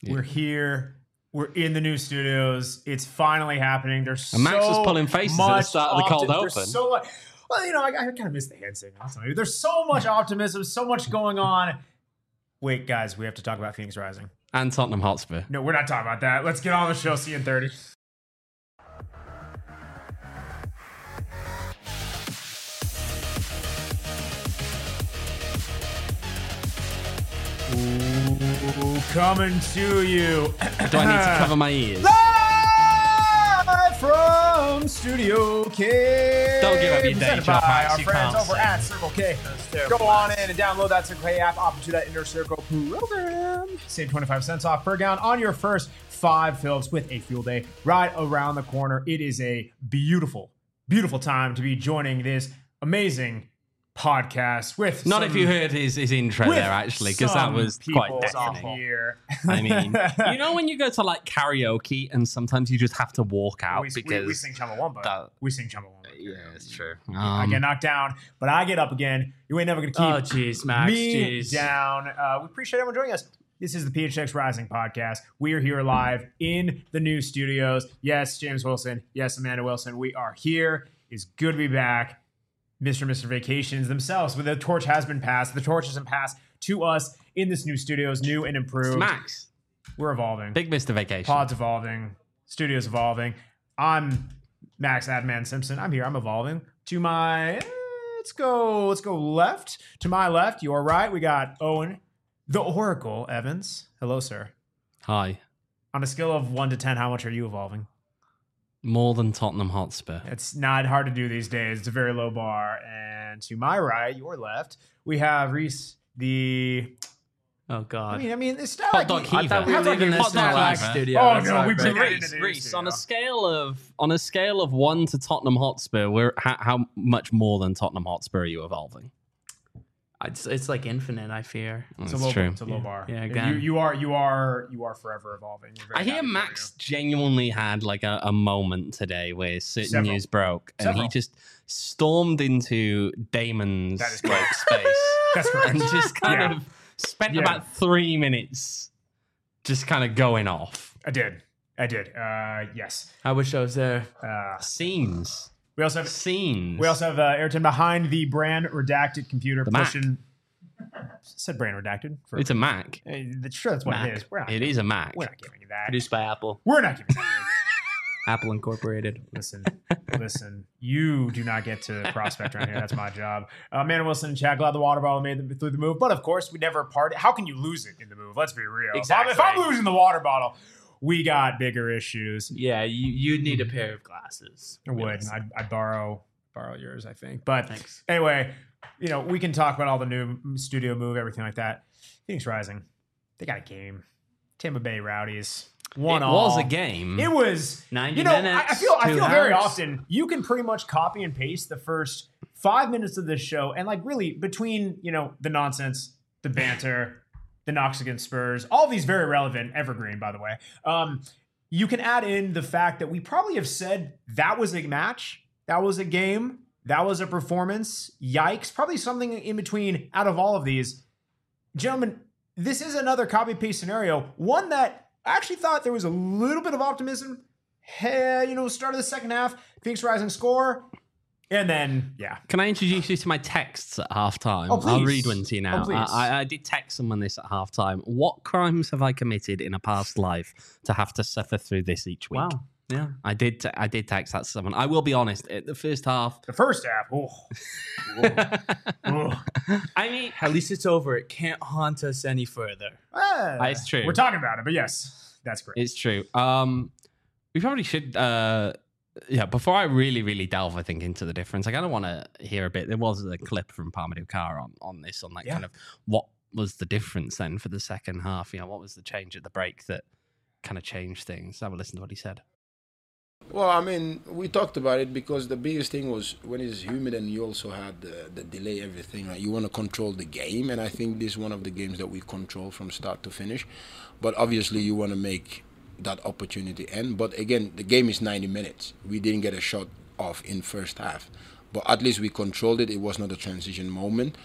Yeah. We're here. We're in the new studios. It's finally happening. There's and Max was pulling faces at the start of the cold open. I kind of miss the hand signal. There's so much optimism, so much going on. Wait, guys, we have to talk about Phoenix Rising. And Tottenham Hotspur. No, we're not talking about that. Let's get on the show. See you in 30. Ooh, coming to you. Do I need to cover my ears? Live from Studio K. Don't give up your day job, Max. Our friends over at Circle K. Go on in and download that Circle K app. Opt into that Inner Circle program. Save 25 cents off per gallon on your first 5 fills with a fuel day right around the corner. It is a beautiful, beautiful time to be joining this amazing podcast with not if you heard his intro there actually, because that was quite deafening. I mean, you know when you go to like karaoke and sometimes you just have to walk out because we sing Chumbawamba. We sing Chumbawamba. Yeah, it's true. I get knocked down, but I get up again. You ain't never gonna keep Max, me down. We appreciate everyone joining us. This is the PHX Rising podcast. We are here live in the new studios. Yes, James Wilson. Yes, Amanda Wilson. We are here. It's good to be back. Mr. and Mr. Vacations themselves, but the torch has been passed. The torch has been passed to us in this new studios, new and improved. It's Max. We're evolving. Big Mr. Vacation. Pod's evolving. Studio's evolving. I'm Max Adman Simpson. I'm here. I'm evolving. To my, let's go left. To my left, your right, we got Owen, the Oracle Evans. Hello, sir. Hi. On a scale of 1 to 10, how much are you evolving? More than Tottenham Hotspur. It's not hard to do these days. It's a very low bar. And to my right, your left, we have Reese, the... Oh, God. I mean, it's not Hot Dog Heaver. I thought we were leaving this in the last studio. Oh, no, we bring it into the Reese, on a scale of 1 to Tottenham Hotspur, how much more than Tottenham Hotspur are you evolving? It's like infinite, I fear. It's a low bar. Yeah, again. You are forever evolving. I hear Max genuinely had like a moment today where certain news broke and he just stormed into Damon's space. That's correct. And just kind of spent about 3 minutes just kind of going off. I did. Yes. I wish I was there. Scenes. We also have scenes. We also have Ayrton behind the brand redacted computer. Said brand redacted. It's a Mac. Sure, that's what Mac. it is. It is a Mac. We're not giving you that. Produced by Apple. We're not giving you that. Apple Incorporated. Listen. You do not get to prospect around here. That's my job. Amanda Wilson and Chad, glad the water bottle made it through the move. But of course, we never parted. How can you lose it in the move? Let's be real. Exactly. If I'm losing the water bottle, we got bigger issues. Yeah, you'd need a pair of glasses. I would. I'd borrow yours, I think. But thanks. Anyway, we can talk about all the new studio move, everything like that. Phoenix Rising, they got a game. Tampa Bay Rowdies. It was a game. It was 90 minutes. I feel very often you can pretty much copy and paste the first 5 minutes of this show, and like really between the nonsense, the banter, the knocks against Spurs, all these very relevant, evergreen, by the way. You can add in the fact that we probably have said that was a match, that was a game, that was a performance. Yikes! Probably something in between out of all of these, gentlemen. This is another copy paste scenario, one that I actually thought there was a little bit of optimism. Hey, start of the second half, Phoenix Rising score. And then, yeah. Can I introduce you to my texts at halftime? Oh, please. I'll read one to you now. Oh, I did text someone this at halftime. What crimes have I committed in a past life to have to suffer through this each week? Wow. Yeah. I did text that to someone. I will be honest. The first half. I mean, at least it's over. It can't haunt us any further. It's true. We're talking about it, but yes, that's great. It's true. We probably should. Before I really, really delve, I think, into the difference, I kind of want to hear a bit. There was a clip from Parmadou Carr on kind of what was the difference then for the second half. What was the change at the break that kind of changed things? Have a listen to what he said. Well, I mean, we talked about it because the biggest thing was when it's humid and you also had the delay, everything, right? You want to control the game, and I think this is one of the games that we control from start to finish. But obviously, you want to make that opportunity end. But again, the game is 90 minutes. We didn't get a shot off in first half. But at least we controlled it. It was not a transition moment.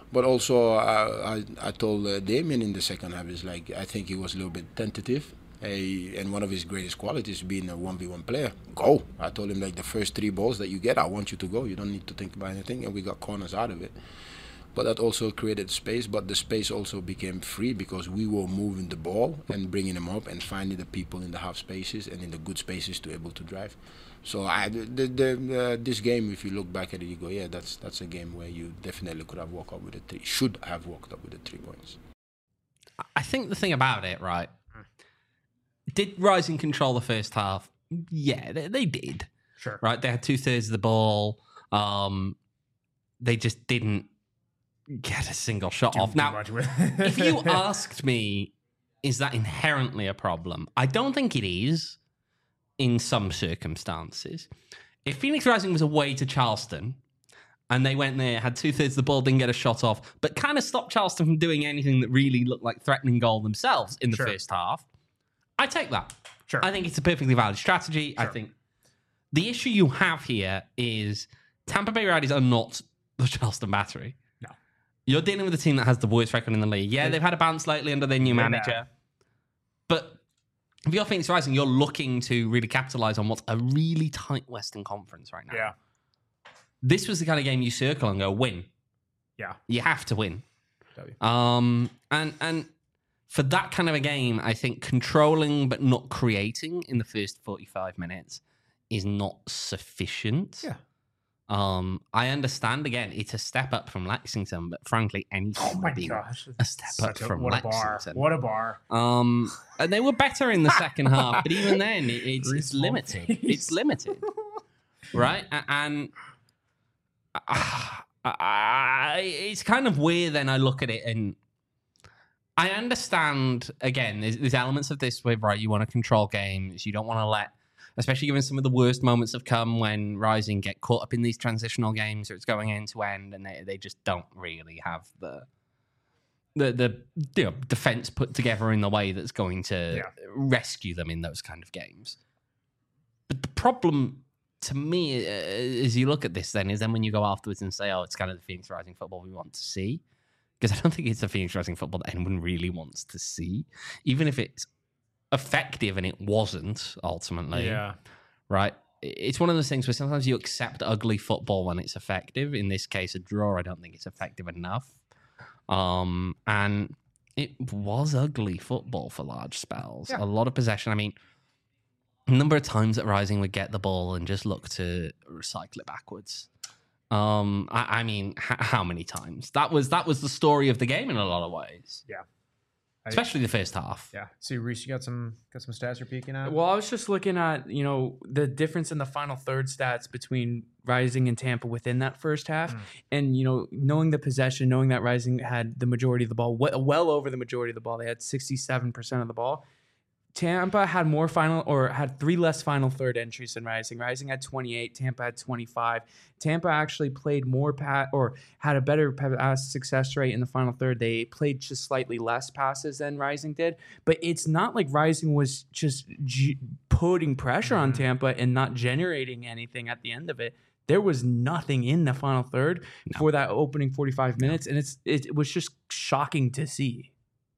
But also, I told Damien in the second half, is like, I think he was a little bit tentative. And one of his greatest qualities being a 1v1 player. Go. I told him, like, the first 3 balls that you get, I want you to go. You don't need to think about anything. And we got corners out of it. But that also created space. But the space also became free because we were moving the ball and bringing them up and finding the people in the half spaces and in the good spaces to able to drive. So this game, if you look back at it, you go, yeah, that's a game where you definitely could have walked up with should have walked up with the 3 points. I think the thing about it, right? Did Rising control the first half? Yeah, they did. Sure. Right? They had 2/3 of the ball. They just didn't get a single shot off. Now, if you asked me, is that inherently a problem? I don't think it is in some circumstances. If Phoenix Rising was away to Charleston and they went there, had 2/3 of the ball, didn't get a shot off, but kind of stopped Charleston from doing anything that really looked like threatening goal themselves in the first half, I take that. Sure. I think it's a perfectly valid strategy. Sure. I think the issue you have here is Tampa Bay Rowdies are not the Charleston Battery. No. You're dealing with a team that has the worst record in the league. Yeah, they've had a bounce lately under their new manager. But if you're Phoenix Rising, you're looking to really capitalize on what's a really tight Western Conference right now. Yeah. This was the kind of game you circle and go, win. Yeah. You have to win. W. And for that kind of a game, I think controlling but not creating in the first 45 minutes is not sufficient. Yeah. I understand, again, it's a step up from Lexington, but frankly, anything would be a step up from Lexington. What a bar. And they were better in the second half, but even then, it's limited. It's limited. Right? And it's kind of weird then I look at it and I understand, again, there's elements of this where, right, you want to control games. You don't want to let, especially given some of the worst moments have come when Rising get caught up in these transitional games or it's going end to end and they just don't really have the defense put together in the way that's going to rescue them in those kind of games. But the problem to me, as you look at this then, is then when you go afterwards and say, oh, it's kind of the Phoenix Rising football we want to see. Because I don't think it's the Phoenix Rising football that anyone really wants to see. Even if it's effective, and it wasn't ultimately. Yeah. Right? It's one of those things where sometimes you accept ugly football when it's effective. In this case, a draw, I don't think it's effective enough. And it was ugly football for large spells. Yeah. A lot of possession. I mean, a number of times that Rising would get the ball and just look to recycle it backwards. I mean, how many times? That was the story of the game in a lot of ways. Yeah. Especially the first half. Yeah. See, Reese, you got some stats you're peeking at? Well, I was just looking at, the difference in the final third stats between Rising and Tampa within that first half. And, knowing the possession, knowing that Rising had the majority of the ball, well over the majority of the ball. They had 67% of the ball. Tampa had had 3 less final third entries than Rising. Rising had 28. Tampa had 25. Tampa actually played more had a better pass success rate in the final third. They played just slightly less passes than Rising did. But it's not like Rising was just putting pressure on Tampa and not generating anything at the end of it. There was nothing in the final third for that opening 45 minutes, and it was just shocking to see.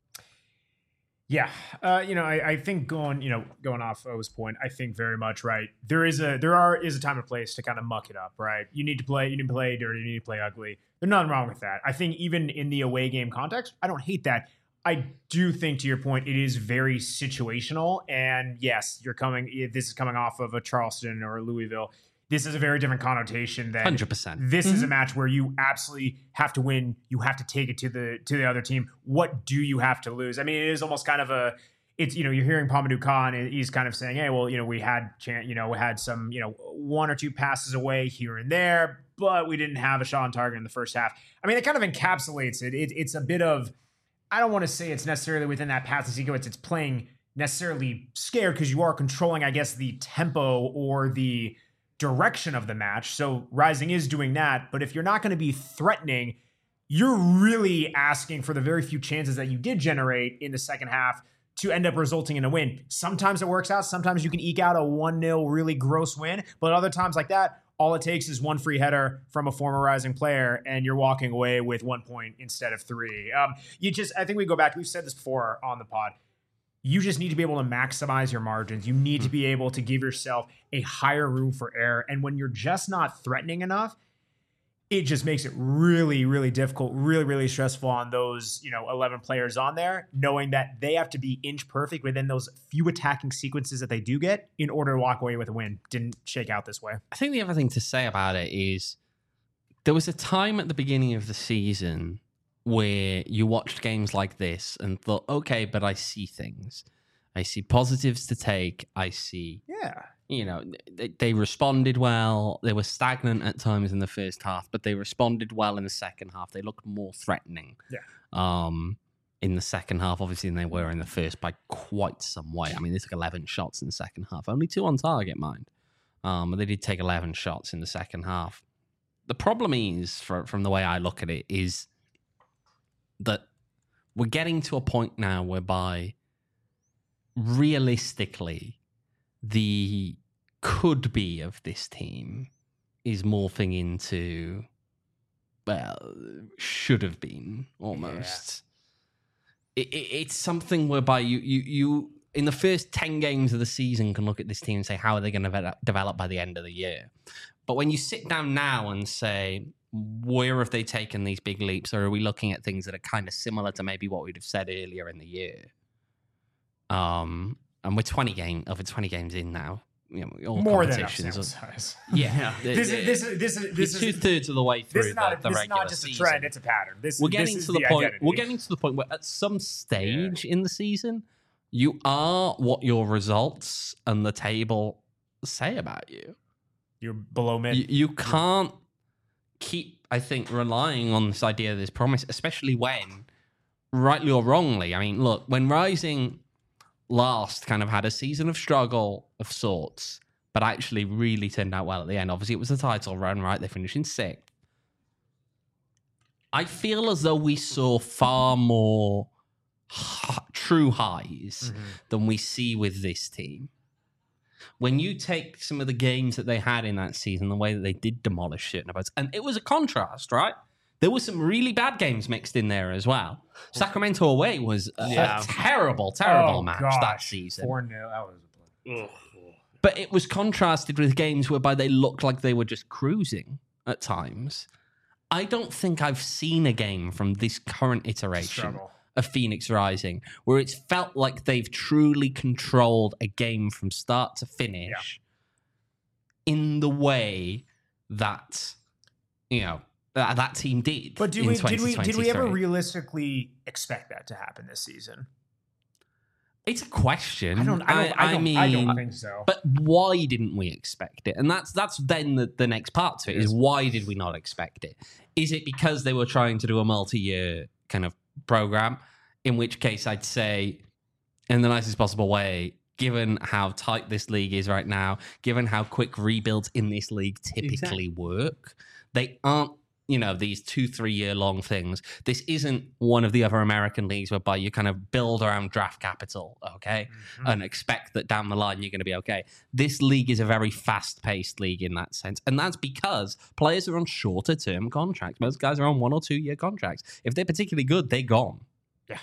Yeah, I think going off O's point, I think very much right. There is a time and place to kind of muck it up, right? You need to play dirty, you need to play ugly. There's nothing wrong with that. I think even in the away game context, I don't hate that. I do think, to your point, it is very situational. And yes, this is coming off of a Charleston or a Louisville. This is a very different connotation than 100%. This is a match where you absolutely have to win. You have to take it to the other team. What do you have to lose? I mean, it is almost kind of you're hearing Pamadou Khan, and he's kind of saying, hey, well, we had some, 1 or 2 passes away here and there, but we didn't have a shot on target in the first half. I mean, it kind of encapsulates it. It's a bit of, I don't want to say it's necessarily within that passing sequence. It's playing necessarily scared because you are controlling, I guess, the tempo or the direction of the match. So Rising is doing that, but if you're not going to be threatening, you're really asking for the very few chances that you did generate in the second half to end up resulting in a win. Sometimes it works out. Sometimes you can eke out a 1-0 really gross win, but other times like that, all it takes is one free header from a former Rising player, and you're walking away with 1 point instead of 3. I think we go back. We've said this before on the pod. You just need to be able to maximize your margins. You need to be able to give yourself a higher room for error. And when you're just not threatening enough, it just makes it really, really difficult, really, really stressful on those, 11 players on there, knowing that they have to be inch perfect within those few attacking sequences that they do get in order to walk away with a win. Didn't shake out this way. I think the other thing to say about it is there was a time at the beginning of the season where you watched games like this and thought, okay, but I see things. I see positives to take. I see... Yeah. They responded well. They were stagnant at times in the first half, but they responded well in the second half. They looked more threatening in the second half, obviously, than they were in the first by quite some way. I mean, they took 11 shots in the second half. Only 2 on target, mind. But they did take 11 shots in the second half. The problem is, from the way I look at it, is that we're getting to a point now whereby realistically the could be of this team is morphing into, well, should have been almost. Yeah. It's something whereby you in the first 10 games of the season can look at this team and say, how are they going to develop by the end of the year? But when you sit down now and say, where have they taken these big leaps? Or are we looking at things that are kind of similar to maybe what we'd have said earlier in the year? And we're 20 games in now. All more than enough sample size. Yeah, this is 2/3 of the way through the regular season. This is not just a trend; it's a pattern. We're getting to the point. We're getting to the point where, at some stage in the season, you are what your results and the table say about you. You're below mid. You can't keep, I think, relying on this idea of this promise, especially when, rightly or wrongly, I mean, look, when Rising last kind of had a season of struggle of sorts, but actually really turned out well at the end. Obviously, it was the title run, right? They finished in 6th. I feel as though we saw far more true highs than we see with this team. When you take some of the games that they had in that season, the way that they did demolish certain opponents, and it was a contrast, right? There were some really bad games mixed in there as well. Sacramento away was a terrible match that season. 4-0. That was. But it was contrasted with games whereby they looked like they were just cruising at times. I don't think I've seen a game from this current iteration of Phoenix Rising where it's felt like they've truly controlled a game from start to finish in the way that, that team did. But did we ever realistically expect that to happen this season? It's a question. I don't think so. But why didn't we expect it? And that's then the next part to it is why did we not expect it? Is it because they were trying to do a multi-year kind of program? In which case I'd say, in the nicest possible way, given how tight this league is right now, given how quick rebuilds in this league typically work, they aren't, these 2-3 year long things. This isn't one of the other American leagues whereby you kind of build around draft capital, okay, and expect that down the line you're going to be okay. This league is a very fast paced league in that sense. And that's because players are on shorter term contracts. Most guys are on 1 or 2 year contracts. If they're particularly good, they're gone. Yeah.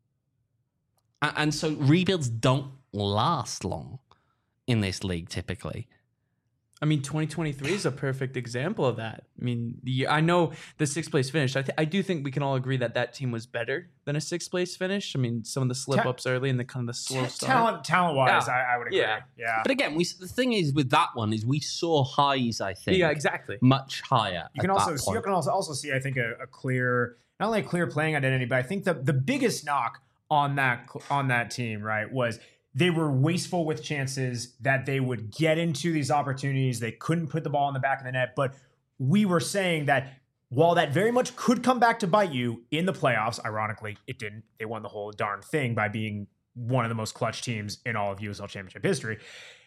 And so rebuilds don't last long in this league typically. I mean, 2023 is a perfect example of that. I mean, I know the 6th place finish. I do think we can all agree that team was better than a 6th place finish. I mean, some of the slip-ups early and the kind of the slow start. Talent-wise, I would agree. Yeah. But again, the thing is with that one is we saw highs, I think. Yeah, exactly. Much higher. You can also see, I think, a clear, not only a clear playing identity, but I think the biggest knock on that team, right, was they were wasteful with chances that they would get into these opportunities. They couldn't put the ball in the back of the net. But we were saying that while that very much could come back to bite you in the playoffs, ironically, it didn't. They won the whole darn thing by being one of the most clutch teams in all of USL Championship history.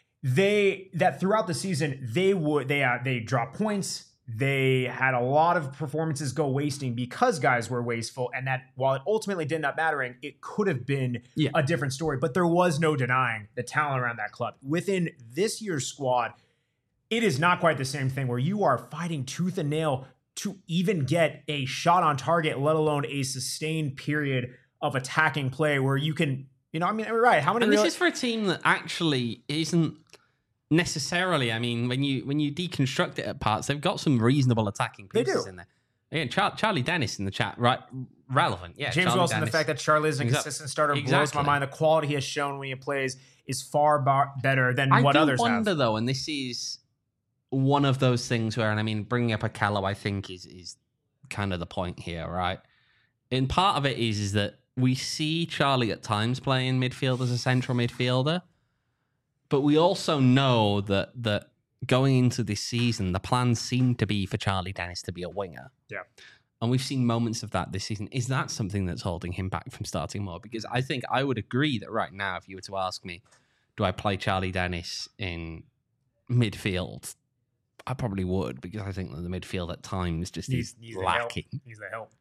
That throughout the season, they dropped points. They had a lot of performances go wasting because guys were wasteful, and that while it ultimately did not mattering, it could have been a different story. But there was no denying the talent around that club. Within this year's squad, it is not quite the same thing where you are fighting tooth and nail to even get a shot on target, let alone a sustained period of attacking play where you can, right. How many? And this is for a team that actually isn't necessarily, when you deconstruct it at parts, they've got some reasonable attacking pieces in there. Again, Charlie Dennis in the chat, right? Relevant. Yeah. James Charlie Wilson, Dennis. the fact that Charlie is a consistent starter blows my mind. The quality he has shown when he plays is far better than what others have. I wonder, though, and this is one of those things where, bringing up Akello, I think, is kind of the point here, right? And part of it is that we see Charlie at times play in midfield as a central midfielder, but we also know that going into this season, the plan seemed to be for Charlie Dennis to be a winger. Yeah. And we've seen moments of that this season. Is that something that's holding him back from starting more? Because I think I would agree that right now, if you were to ask me, do I play Charlie Dennis in midfield? I probably would, because I think that the midfield at times just is lacking. Needs the help.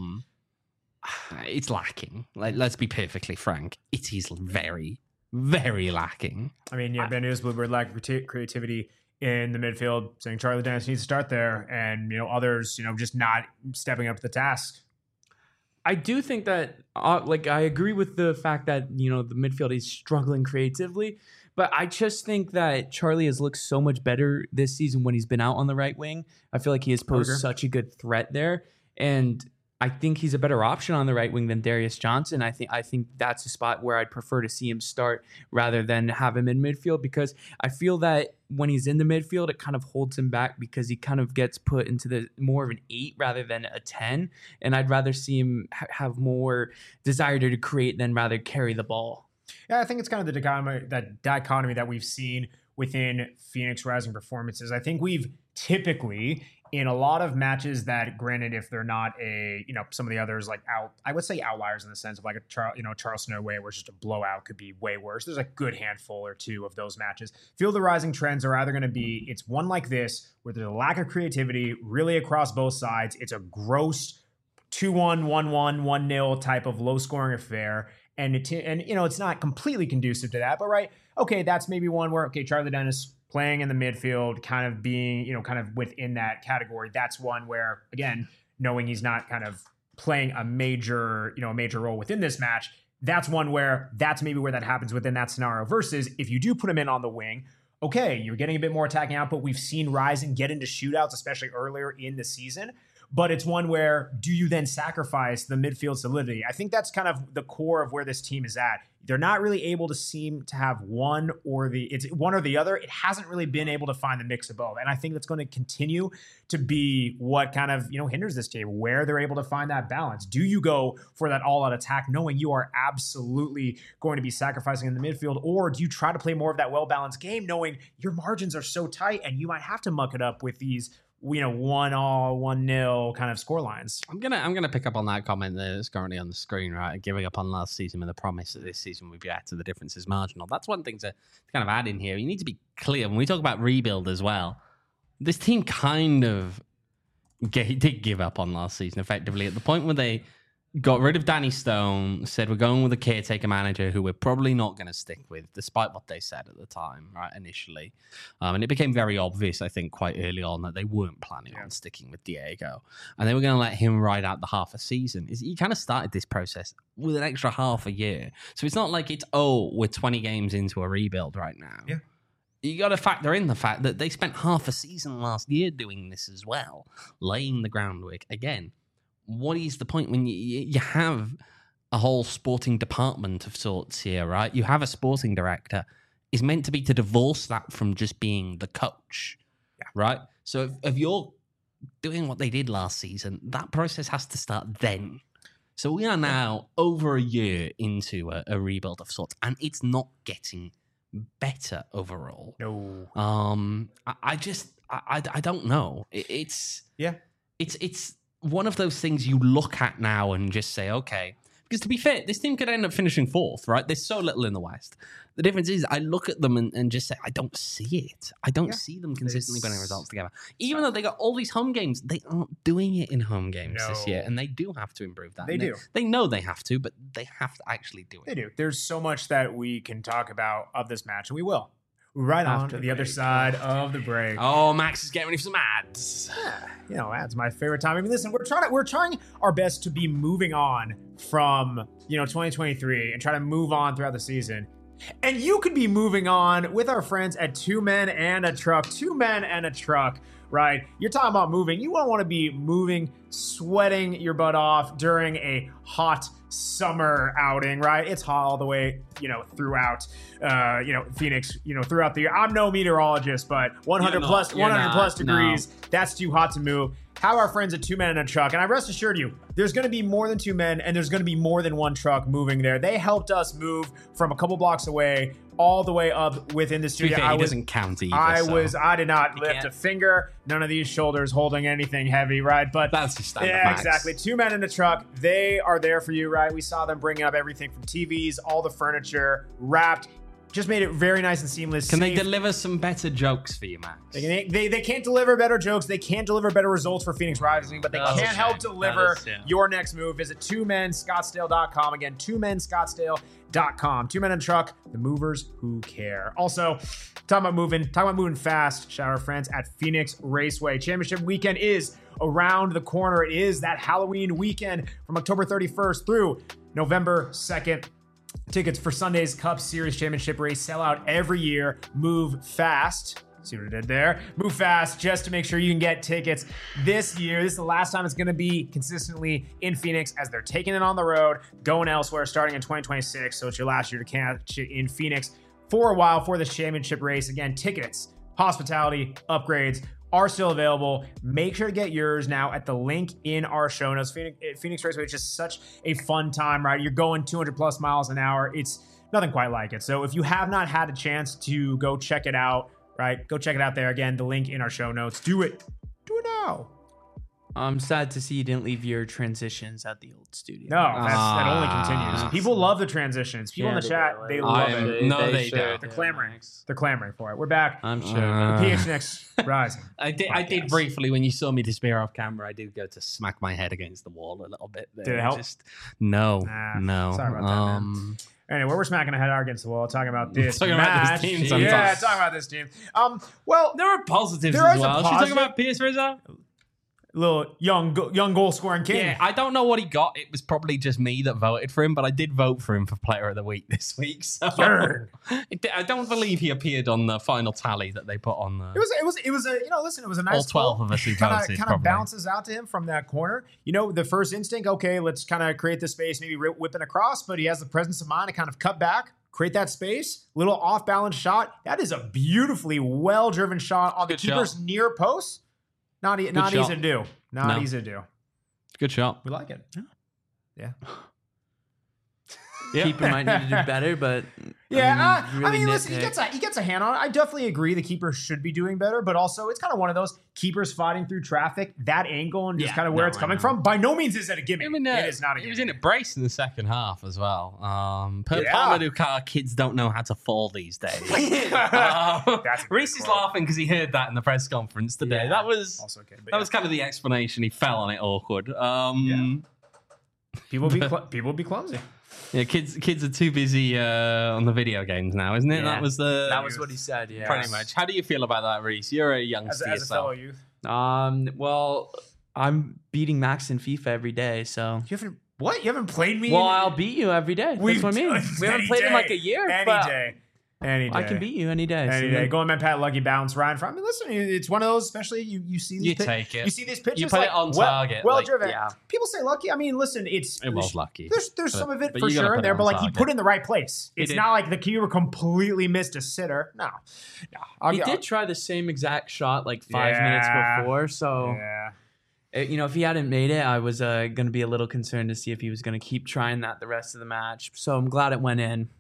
It's lacking. Let's be perfectly frank. It is very, very lacking. Ben Newsbluebird lack of creativity in the midfield, saying Charlie Dennis needs to start there, and others, just not stepping up to the task. I do think that, I agree with the fact that the midfield is struggling creatively, but I just think that Charlie has looked so much better this season when he's been out on the right wing. I feel like he has posed such a good threat there, and I think he's a better option on the right wing than Darius Johnson. I think that's a spot where I'd prefer to see him start rather than have him in midfield, because I feel that when he's in the midfield, it kind of holds him back because he kind of gets put into the more of an 8 rather than a 10. And I'd rather see him have more desire to create than rather carry the ball. Yeah, I think it's kind of the dichotomy that we've seen within Phoenix Rising performances. I think we've typically, in a lot of matches that, granted, if they're not some of the others I would say outliers in the sense of like a Charleston away where it's just a blowout could be way worse. There's a good handful or two of those matches. Feel the rising trends are either going to be, it's one like this where there's a lack of creativity really across both sides. It's a gross 2-1, 1-1, 1-0 type of low scoring affair. And it's not completely conducive to that, but right. Okay. That's maybe one where, Charlie Dennis playing in the midfield, kind of being, kind of within that category. That's one where, again, knowing he's not kind of playing a major role within this match, that's one where that's maybe where that happens within that scenario. Versus if you do put him in on the wing, okay, you're getting a bit more attacking output. We've seen Rising get into shootouts, especially earlier in the season. But it's one where, do you then sacrifice the midfield solidity? I think that's kind of the core of where this team is at. They're not really able to seem to have one or the other. It hasn't really been able to find the mix of both. And I think that's going to continue to be what kind of, hinders this team, where they're able to find that balance. Do you go for that all-out attack knowing you are absolutely going to be sacrificing in the midfield? Or do you try to play more of that well-balanced game knowing your margins are so tight and you might have to muck it up with these 1-all, 1-0 kind of score lines? I'm gonna pick up on that comment that's currently on the screen, right? Giving up on last season with the promise that this season would be better, the difference is marginal. That's one thing to kind of add in here. You need to be clear when we talk about rebuild as well. This team kind of did give up on last season effectively at the point where they got rid of Danny Stone, said we're going with a caretaker manager who we're probably not going to stick with, despite what they said at the time, right, initially. And it became very obvious, I think, quite early on that they weren't planning on sticking with Diego. And they were going to let him ride out the half a season. He kind of started this process with an extra half a year. So it's not like we're 20 games into a rebuild right now. Yeah. You got to factor in the fact that they spent half a season last year doing this as well, laying the groundwork again. What is the point when you have a whole sporting department of sorts here, right? You have a sporting director. It's meant to be to divorce that from just being the coach, right? So if you're doing what they did last season, that process has to start then. So we are now over a year into a rebuild of sorts, and it's not getting better overall. No. I don't know. It's one of those things you look at now and just say, okay, because to be fair, this team could end up finishing fourth, right? There's so little in the West. The difference is I look at them and just say, I don't see it. I don't see them consistently putting results together. Even though they got all these home games, they aren't doing it in home games this year, and they do have to improve that. They do. They know they have to, but they have to actually do it. They do. There's so much that we can talk about of this match, and we will. right on After the the other break. side of the break. Oh, Max is getting ready for some ads. You know, that's my favorite time. I mean, listen, we're trying our best to be moving on from, 2023 and try to move on throughout the season. And you could be moving on with our friends at Two Men and a Truck. Two Men and a Truck, right? You're talking about moving. You don't want to be moving, sweating your butt off during a hot summer outing, right? It's hot all the way, throughout, Phoenix, throughout the year. I'm no meteorologist, but 100 plus degrees, that's too hot to move. Have our friends at Two Men and a Truck, and I rest assured you, there's going to be more than two men, and there's going to be more than one truck moving there. They helped us move from a couple blocks away all the way up within the To be studio. fair, he doesn't count either. I did not lift can't. a finger. None of these shoulders holding anything heavy, right? But That's just standard, yeah, Max. exactly. Two Men in a Truck. They are there for you, right? We saw them bringing up everything from TVs, all the furniture, wrapped. Just made it very nice and seamless. Can they safe. deliver some better jokes for you, Max? They can't deliver better jokes. They can't deliver better results for Phoenix Rising, but they That's can a help shame. deliver That is, yeah. your next move. Visit twomenscottsdale.com. Again, twomenscottsdale.com. Two Men in a Truck, the movers who care. Also, talking about moving fast. Shout out our friends at Phoenix Raceway. Championship weekend is around the corner. It is that Halloween weekend from October 31st through November 2nd. Tickets for Sunday's Cup Series Championship race sell out every year. Move fast. See what I did there? Move fast just to make sure you can get tickets this year. This is the last time it's going to be consistently in Phoenix as they're taking it on the road, going elsewhere starting in 2026. So it's your last year to catch it in Phoenix for a while for this championship race. Again, tickets, hospitality, upgrades are still available. Make sure to get yours now at the link in our show notes. Phoenix Raceway is just such a fun time, right? You're going 200 plus miles an hour. It's nothing quite like it. So if you have not had a chance to go check it out, right? Go check it out there. Again, the link in our show notes. Do it. Do it now. I'm sad to see you didn't leave your transitions at the old studio. No, that only continues. People love the transitions. People in the chat, they love it. They should. don't. They're clamoring. They're clamoring for it. We're back. I'm sure. PHNX Rising. I did Podcast. briefly when you saw me despair off camera. I did go to smack my head against the wall a little bit. There. Did it help? No. Sorry about that, man. Anyway, we're smacking our head against the wall, talking about this Talking about match. this team Yeah, sometimes. talking about this team. Well, There are positives There as is a well. Should we talk positive. about Pierce Rizzo? little young goal scoring king. Yeah, I don't know what he got. It was probably just me that voted for him, but I did vote for him for Player of the Week this week. So Sure. I don't believe he appeared on the final tally that they put on the. It was a listen, it was a nice all 12 goal. of us who Kind voted. of probably. bounces out to him from that corner. The first instinct, okay, let's kind of create the space, maybe whipping across, but he has the presence of mind to kind of cut back, create that space, little off balance shot. That is a beautifully well driven shot on the Good shot. keeper's near post. Not easy shot. to do. Not easy to do. Good shot. We like it. Yeah. Yeah. Keeper might need to do better, but Yeah, really listen, nitpick. he gets a hand on it. I definitely agree the keeper should be doing better, but also it's kind of one of those keepers fighting through traffic, that angle and just Yeah, kind of where no, it's I coming know. from. By no means is it a gimmick. I mean, it is not a he gimmick. was in a brace in the second half as well. Yeah. Parmadukar kids don't know how to fall these days. That's a good Reese is quote. laughing because he heard that in the press conference today. Yeah. That was Also okay, but that was kind of the explanation. He fell on it awkward. people be clumsy. Yeah, kids are too busy on the video games now, isn't it? Yeah. That was that was what he said. Yeah, pretty much. How do you feel about that, Reese? You're a As youngster a fellow yourself. youth, Well, I'm beating Max in FIFA every day, so. you haven't played me. Well, I'll beat you every day. That's what I mean. We haven't played in like a year. Any but day. Any day. I can beat you any day. Any so day. Going man, Pat, lucky bounce, Ryan. From listen, it's one of those. Especially you see these. You take it. You see these pitches. You put it on target, Well like, driven. yeah. People say lucky. I mean, listen, It was lucky. There's some of it but for you gotta sure put in it there, on but like he target. put it in the right place. It's did. not like the keeper completely missed a sitter. No. He did try the same exact shot like 5 minutes Yeah. before, so Yeah. if he hadn't made it, I was going to be a little concerned to see if he was going to keep trying that the rest of the match. So I'm glad it went in.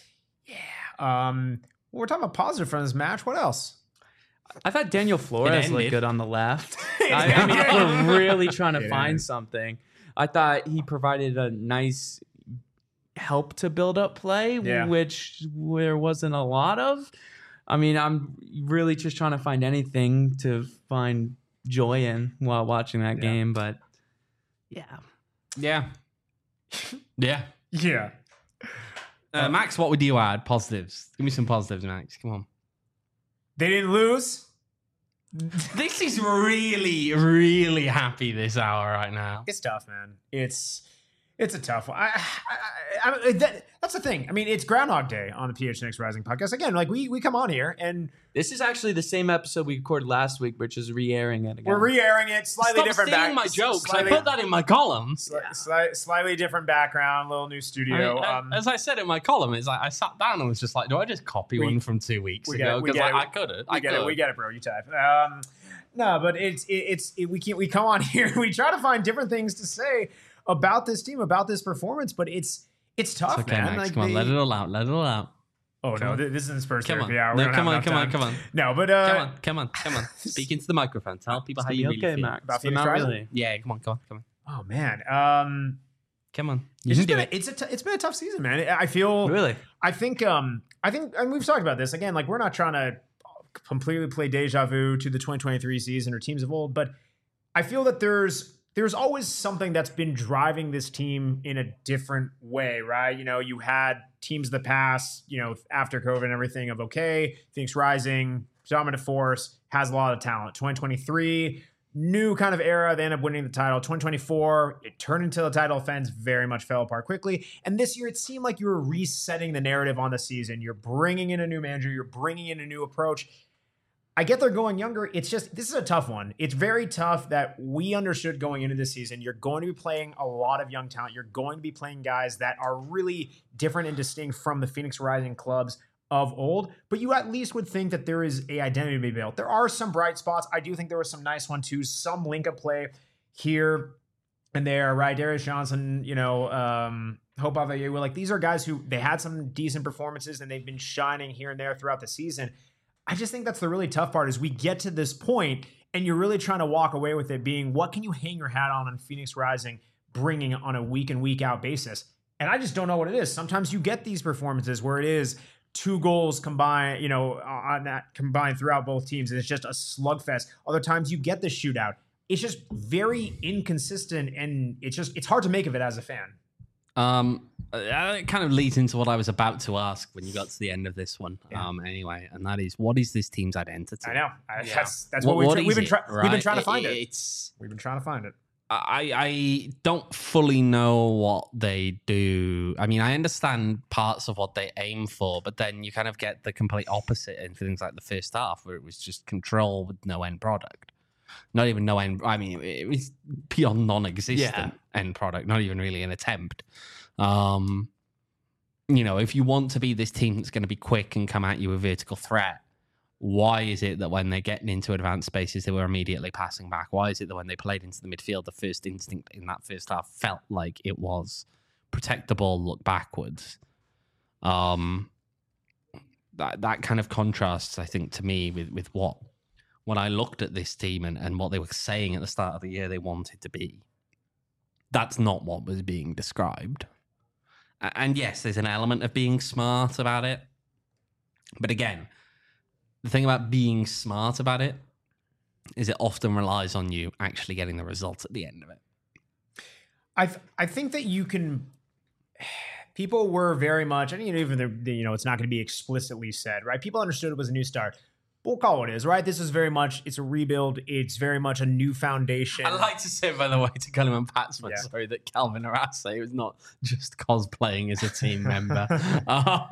We're talking about positive from this match. What else? I thought Daniel Flores ended. looked good on the left. I mean, if we're really trying to It find ended. something. I thought he provided a nice help to build up play, Yeah. which there wasn't a lot of. I mean, I'm really just trying to find anything to find joy in while watching that game, but yeah. Yeah. Yeah. Yeah. Max, what would you add? Positives. Give me some positives, Max. Come on. They didn't lose. This is really, really happy this hour right now. It's tough, man. It's a tough one. That's the thing. I mean, it's Groundhog Day on the PHNX Rising podcast. Again, like we come on here and This is actually the same episode we recorded last week, which is re-airing it again. we're re-airing it, slightly Stop different stealing my jokes. I put that in my column. Slightly different background, little new studio. As I said in my column, it's like I sat down and was just like, do I just copy one from 2 weeks ago? Because I could have. We get it, bro. You type. No, but we come on here. We try to find different things to say about this team, about this performance, but it's tough, okay, man. Max, Like come on, let it all out. Let it all out. Oh no, this isn't Spurs Come on. therapy hour. No, come on. No, but Come on. Speak into the microphone. Tell people how you really feel. Max. About But Phoenix not Rising? really. Yeah, come on. oh man, Come on. You it's can do been it. it's been a tough season, man. I feel Really? I think, and we've talked about this again. Like, we're not trying to completely play deja vu to the 2023 season or teams of old, but I feel that there's always something that's been driving this team in a different way, right? You know, you had teams of the past, you know, after COVID and everything of Phoenix Rising, dominant force, has a lot of talent. 2023, new kind of era. They end up winning the title. 2024, it turned into the title offense, very much fell apart quickly. And this year, it seemed like you were resetting the narrative on the season. You're bringing in a new manager. You're bringing in a new approach. I get they're going younger. It's just, this is a tough one. It's very tough that we understood going into this season. You're going to be playing a lot of young talent. You're going to be playing guys that are really different and distinct from the Phoenix Rising clubs of old, but you at least would think that there is a identity to be built. There are some bright spots. I do think there was some nice 1-2s, some link-up play here and there, right? Darius Johnson, you know, Hope Avayewu, like these are guys who they had some decent performances and they've been shining here and there throughout the season. I just think that's the really tough part is we get to this point and you're really trying to walk away with it being, what can you hang your hat on Phoenix Rising bringing on a week in, week out basis? And I just don't know what it is. Sometimes you get these performances where it is 2 goals combined, you know, on that combined throughout both teams. And it's just a slugfest. Other times you get the shootout. It's just very inconsistent and it's hard to make of it as a fan. It kind of leads into what I was about to ask when you got to the end of this one. Yeah. Anyway, and that is, what is this team's identity? I know. That's what we've been trying to find it. We've been trying to find it. I don't fully know what they do. I mean, I understand parts of what they aim for, but then you kind of get the complete opposite in things like the first half, where it was just control with no end product. Not even no end. I mean, it was beyond non-existent end product. Not even really an attempt. You know, if you want to be this team that's going to be quick and come at you with vertical threat, why is it that when they're getting into advanced spaces, they were immediately passing back? Why is it that when they played into the midfield, the first instinct in that first half felt like it was protect the ball, look backwards? That kind of contrasts, I think, to me with what when I looked at this team and what they were saying at the start of the year they wanted to be. That's not what was being described. And yes, there's an element of being smart about it. But again, the thing about being smart about it is it often relies on you actually getting the results at the end of it. I think that you can. People were very much, and even it's not going to be explicitly said, right? People understood it was a new start. We'll call it what it is, right? This is very much, it's a rebuild. It's very much a new foundation. I'd like to say, by the way, to Culliman Patsman, sorry, that Calvin Arase was not just cosplaying as a team member. Oh,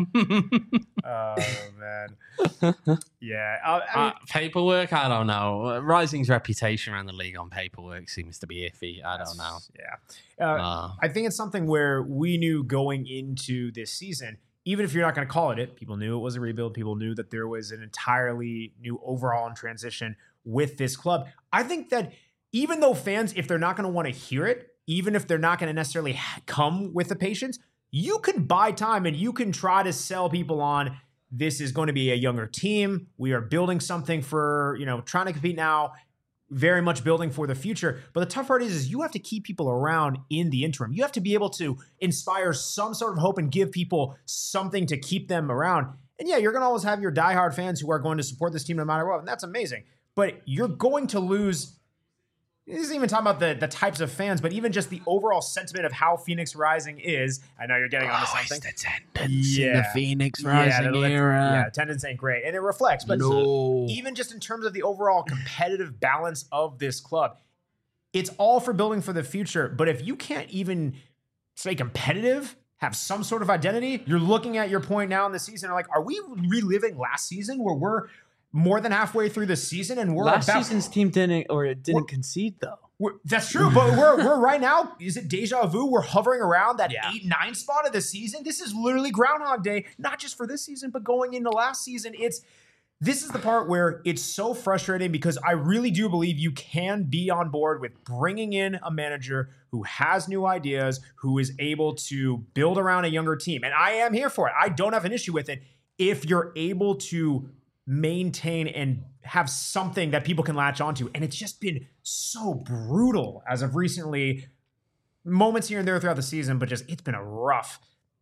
man. Yeah. I mean, paperwork, I don't know. Rising's reputation around the league on paperwork seems to be iffy. I don't know. Yeah. I think it's something where we knew going into this season, even if you're not going to call it, people knew it was a rebuild. People knew that there was an entirely new overhaul and transition with this club. I think that even though fans, if they're not going to want to hear it, even if they're not going to necessarily come with the patience, you can buy time and you can try to sell people on this is going to be a younger team. We are building something for, trying to compete now, very much building for the future. But the tough part is you have to keep people around in the interim. You have to be able to inspire some sort of hope and give people something to keep them around. And yeah, you're going to always have your diehard fans who are going to support this team no matter what. And that's amazing. But you're going to lose this isn't even talking about the types of fans, but even just the overall sentiment of how Phoenix Rising is. I know you're getting onto something. Attendance in the Phoenix Rising era. Yeah, attendance ain't great, and it reflects. But even just in terms of the overall competitive balance of this club, it's all for building for the future. But if you can't even stay competitive, have some sort of identity, you're looking at your point now in the season, like, are we reliving last season where we're more than halfway through the season and we're last season's team didn't concede though. That's true, but we're right now. Is it deja vu? We're hovering around that 8-9 spot of the season. This is literally Groundhog Day, not just for this season, but going into last season. This is the part where it's so frustrating because I really do believe you can be on board with bringing in a manager who has new ideas, who is able to build around a younger team, and I am here for it. I don't have an issue with it if you're able to maintain and have something that people can latch onto. And it's just been so brutal as of recently, moments here and there throughout the season, but just it's been a rough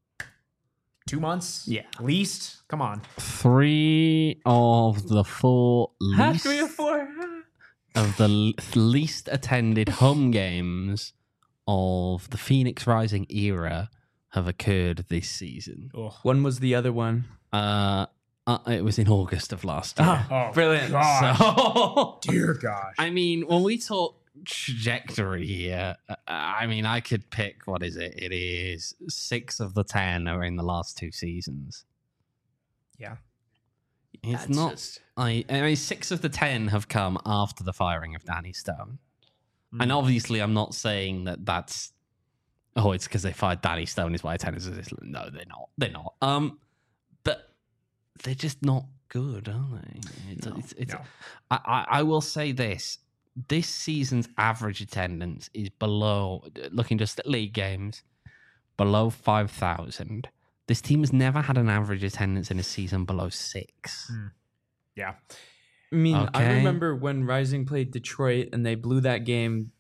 2 months. Yeah. At least. Come on. 3 of the 4 least, 3 or 4 of the least attended home games of the Phoenix Rising era have occurred this season. When was the other one? It was in August of last year. Oh, Brilliant. So, dear gosh. I mean, when we talk trajectory here, I mean, I could pick, what is it? It is 6 of the 10 are in the last 2 seasons. Yeah. It's not. I mean, 6 of the 10 have come after the firing of Danny Stone. And obviously, I'm not saying that that's. Oh, it's because they fired Danny Stone is why attendance is this. No, they're not. They're not. But they're just not good, are they? No. I will say this. This season's average attendance is below, looking just at league games, below 5,000. This team has never had an average attendance in a season below 6. Yeah. I mean, I Okay. remember when Rising played Detroit and they blew that game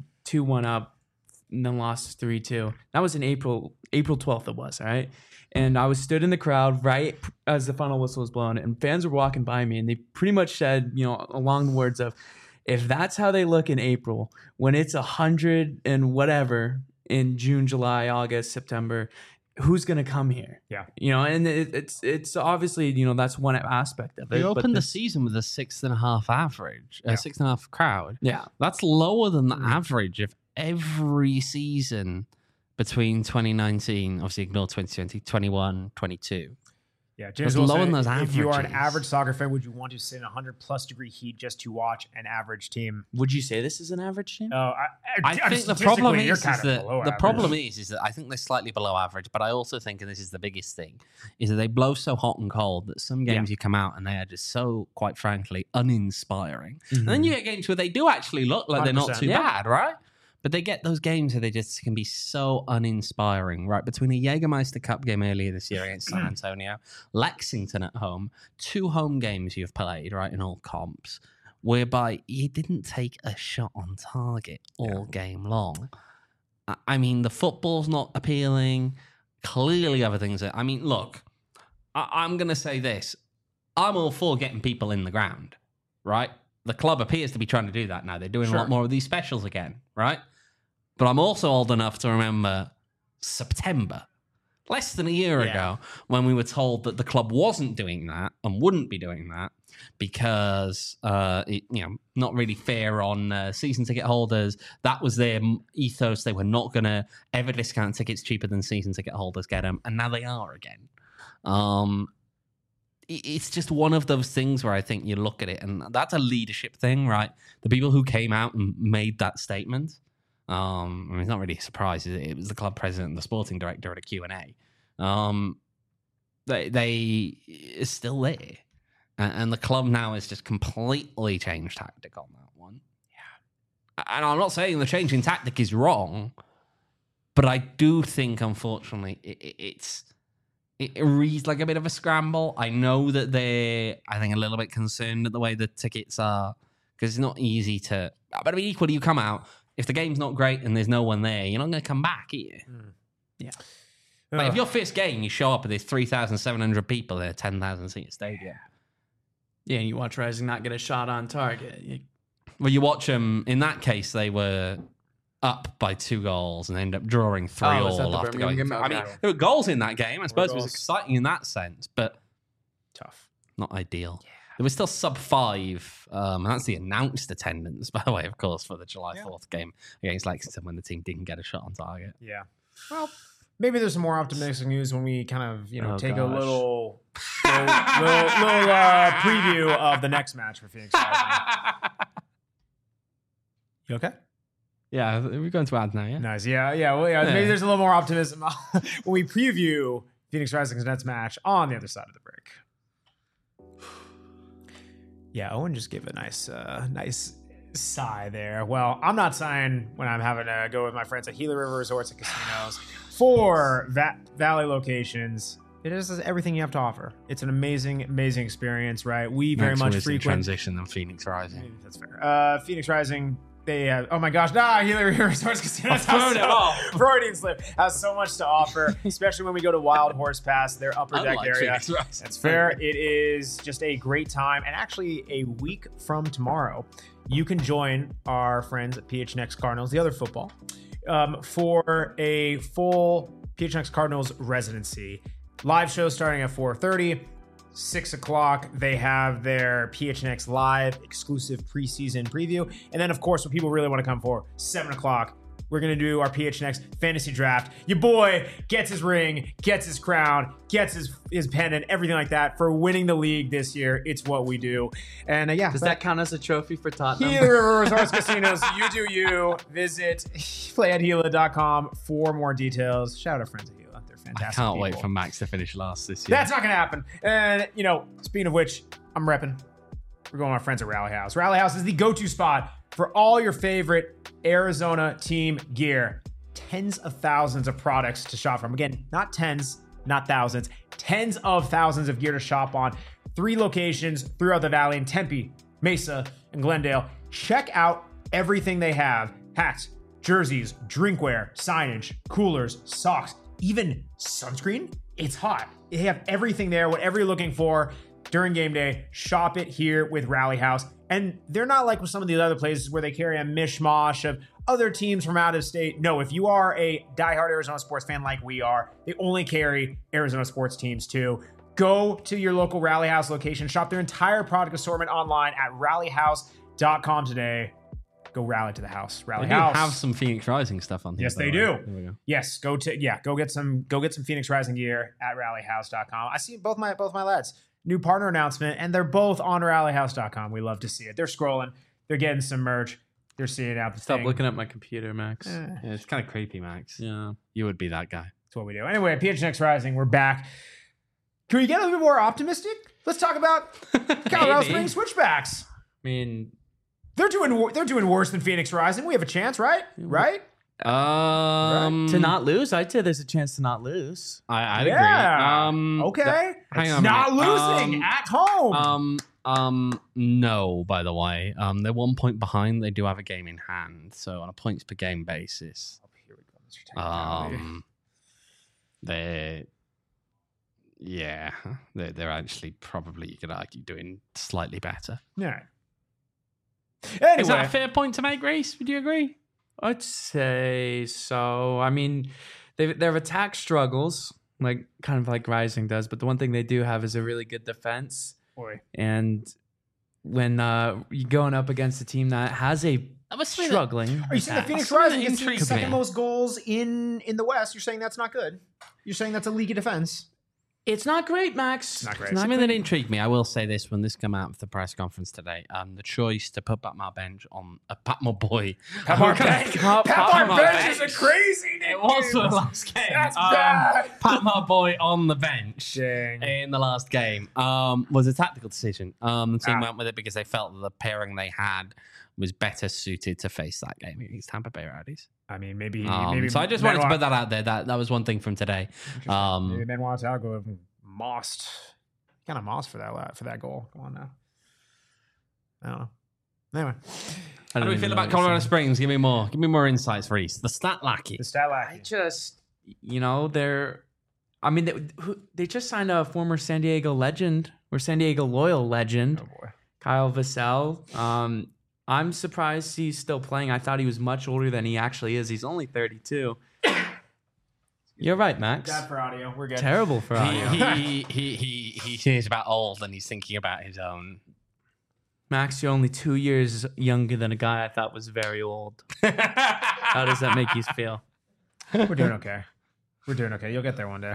2-1 up and then lost 3-2. That was in April 12th it was, all right? And I was stood in the crowd right as the final whistle was blown, and fans were walking by me, and they pretty much said, along the words of, if that's how they look in April, when it's 100 and whatever in June, July, August, September, who's going to come here? Yeah. And it's obviously, that's one aspect of it. They but opened the season with a 6.5 average, 6.5 crowd. Yeah. That's lower than the average of every season between 2019, obviously ignore 2020, 21, 22. Yeah, James That's lower Wilson, than those if you are an averages. average soccer fan, would you want to sit in 100-plus degree heat just to watch an average team? Would you say this is an average team? I think the problem statistically, you're is kind of that below the average. problem is that I think they're slightly below average, but I also think, and this is the biggest thing, is that they blow so hot and cold that some games you come out and they are just so, quite frankly, uninspiring. And then you get games where they do actually look like they're not 100%. too bad, right? But they get those games where they just can be so uninspiring, right? Between a Jägermeister Cup game earlier this year against San Antonio, Lexington at home, 2 home games you've played, right, in all comps, whereby you didn't take a shot on target all game long. I mean, the football's not appealing. Clearly other things are... I mean, look, I'm going to say this. I'm all for getting people in the ground, right? The club appears to be trying to do that now. They're doing a lot more of these specials again, right? But I'm also old enough to remember September, less than a year ago, when we were told that the club wasn't doing that and wouldn't be doing that because, not really fair on season ticket holders. That was their ethos. They were not going to ever discount tickets cheaper than season ticket holders get them. And now they are again. It's just one of those things where I think you look at it, and that's a leadership thing, right? The people who came out and made that statement, I mean, it's not really a surprise. It was the club president and the sporting director at a Q&A. They are still there. And the club now has just completely changed tactic on that one. Yeah. And I'm not saying the change in tactic is wrong, but I do think, unfortunately, it reads like a bit of a scramble. I know that they're, I think, a little bit concerned at the way the tickets are, because it's not easy to... But I mean, equally, you come out, if the game's not great and there's no one there, you're not going to come back, are you? Yeah. Like, if your first game, you show up and there's 3,700 people in a 10,000-seat stadium. Yeah, and you watch Rising not get a shot on target. Well, you watch them. In that case, they were up by 2 goals and ended up drawing 3 was that all the after Birmingham going. game? I mean, Okay. there were goals in that game. I suppose it was goals. exciting in that sense, but Tough. not ideal. There was still sub 5. And that's the announced attendance, by the way, of course, for the July 4th game against Lexington when the team didn't get a shot on target. Yeah. Well, maybe there's some more optimistic news when we kind of, take a gosh. little preview of the next match for Phoenix Rising. You okay? Yeah, we're going to add now, yeah? Nice. Yeah. Well, yeah. Maybe there's a little more optimism when we preview Phoenix Rising's next match on the other side of the break. Yeah, Owen just gave a nice sigh there. Well, I'm not sighing when I'm having to go with my friends at Gila River Resorts and Casinos for Valley locations. It is everything you have to offer. It's an amazing experience, right? We very Next much one is in frequent. transition than Phoenix Rising. That's fair. Phoenix Rising. They have, oh my gosh, Gila River Resorts Casinos. Freudian slip has so much to offer, especially when we go to Wild Horse Pass, their upper deck Unlike area. Phoenix Rising. That's fair. It is just a great time. And actually, a week from tomorrow, you can join our friends at PHNX Cardinals, the other football, for a full PHNX Cardinals residency. Live show starting at 4:30. 6 o'clock, they have their PHNX Live exclusive preseason preview. And then, of course, what people really want to come for, 7 o'clock, we're going to do our PHNX fantasy draft. Your boy gets his ring, gets his crown, gets his pennant, everything like that for winning the league this year. It's what we do. And Does that count as a trophy for Tottenham? Gila River Resorts Casinos, you do you. Visit playatgila.com for more details. Shout out our friends at Gila. They're I fantastic can't wait people. for Max to finish last this year. That's not going to happen. And, speaking of which, I'm repping. We're going with our friends at Rally House. Rally House is the go-to spot for all your favorite Arizona team gear. Tens of thousands of products to shop from. Again, not tens, not thousands. Tens of thousands of gear to shop on. 3 locations throughout the valley in Tempe, Mesa, and Glendale. Check out everything they have. Hats, jerseys, drinkware, signage, coolers, socks, even sunscreen. It's hot. They have everything there, whatever you're looking for during game day. Shop it here with Rally House. And they're not like with some of the other places where they carry a mishmash of other teams from out of state. No, if you are a diehard Arizona sports fan like we are, they only carry Arizona sports teams too. Go to your local Rally House location. Shop their entire product assortment online at rallyhouse.com today. Go rally to the house. Rally They do House. have some Phoenix Rising stuff on here. Yes, by they the way. do. There we go. Yes, go get some Phoenix Rising gear at rallyhouse.com. I see both my lads. New partner announcement, and they're both on rallyhouse.com. We love to see it. They're scrolling. They're getting some merch. They're seeing out the Stop thing. looking at my computer, Max. Yeah, it's kind of creepy, Max. Yeah. You would be that guy. That's what we do. Anyway, PHNX Rising, we're back. Can we get a little bit more optimistic? Let's talk about Colorado Maybe. Springs Switchbacks. I mean, They're doing worse than Phoenix Rising. We have a chance, right? Right? to not lose, I'd say there's a chance to not lose. I'd Yeah. agree. Okay. Hang on a Not minute. losing at home. No, by the way. They're 1 point behind. They do have a game in hand. So on a points per game basis, Here we go, Mr. Technicality. they're actually probably, you could argue, doing slightly better. Yeah. Is that a Anyway, fair point to make, Reese? Would you agree? I'd say so. I mean, they have attack struggles, like kind of like Rising does, but the one thing they do have is a really good defense. boy. And when you're going up against a team that has a That was something struggling, Are you saying the attack. Phoenix Something Rising that gets the intrigues second me. most goals in the West? You're saying that's not good? You're saying that's a leaky defense? It's not great, Max. It's not great. It's Something great. that intrigued me, I will say this when this came out of the press conference today, the choice to put Patmar Bench on Patmar Boy. Patmar Bench. Patmar Bench is a crazy name. It was for the last game. That's bad. Patmar Boy on the bench Dang. in the last game was a tactical decision. The team Ah. went with it because they felt that the pairing they had was better suited to face that game against Tampa Bay Rowdies. I mean, maybe. So I just wanted to put that out there. That was one thing from today. Maybe Benoit Talgo mossed. Kind of mossed for that goal. Come on now. I don't know. Anyway, How do we feel about Colorado Springs? Give me more insights, Reese. The stat lackey. the stat I lackey. just, they just signed a former San Diego legend or San Diego Loyal legend, Oh boy. Kyle Vassell. I'm surprised he's still playing. I thought he was much older than he actually is. He's only 32. You're right, Max. Bad for audio. We're good. Terrible for audio. He hears about old and he's thinking about his own. Max, you're only 2 years younger than a guy I thought was very old. How does that make you feel? We're doing okay. We're doing okay. You'll get there one day.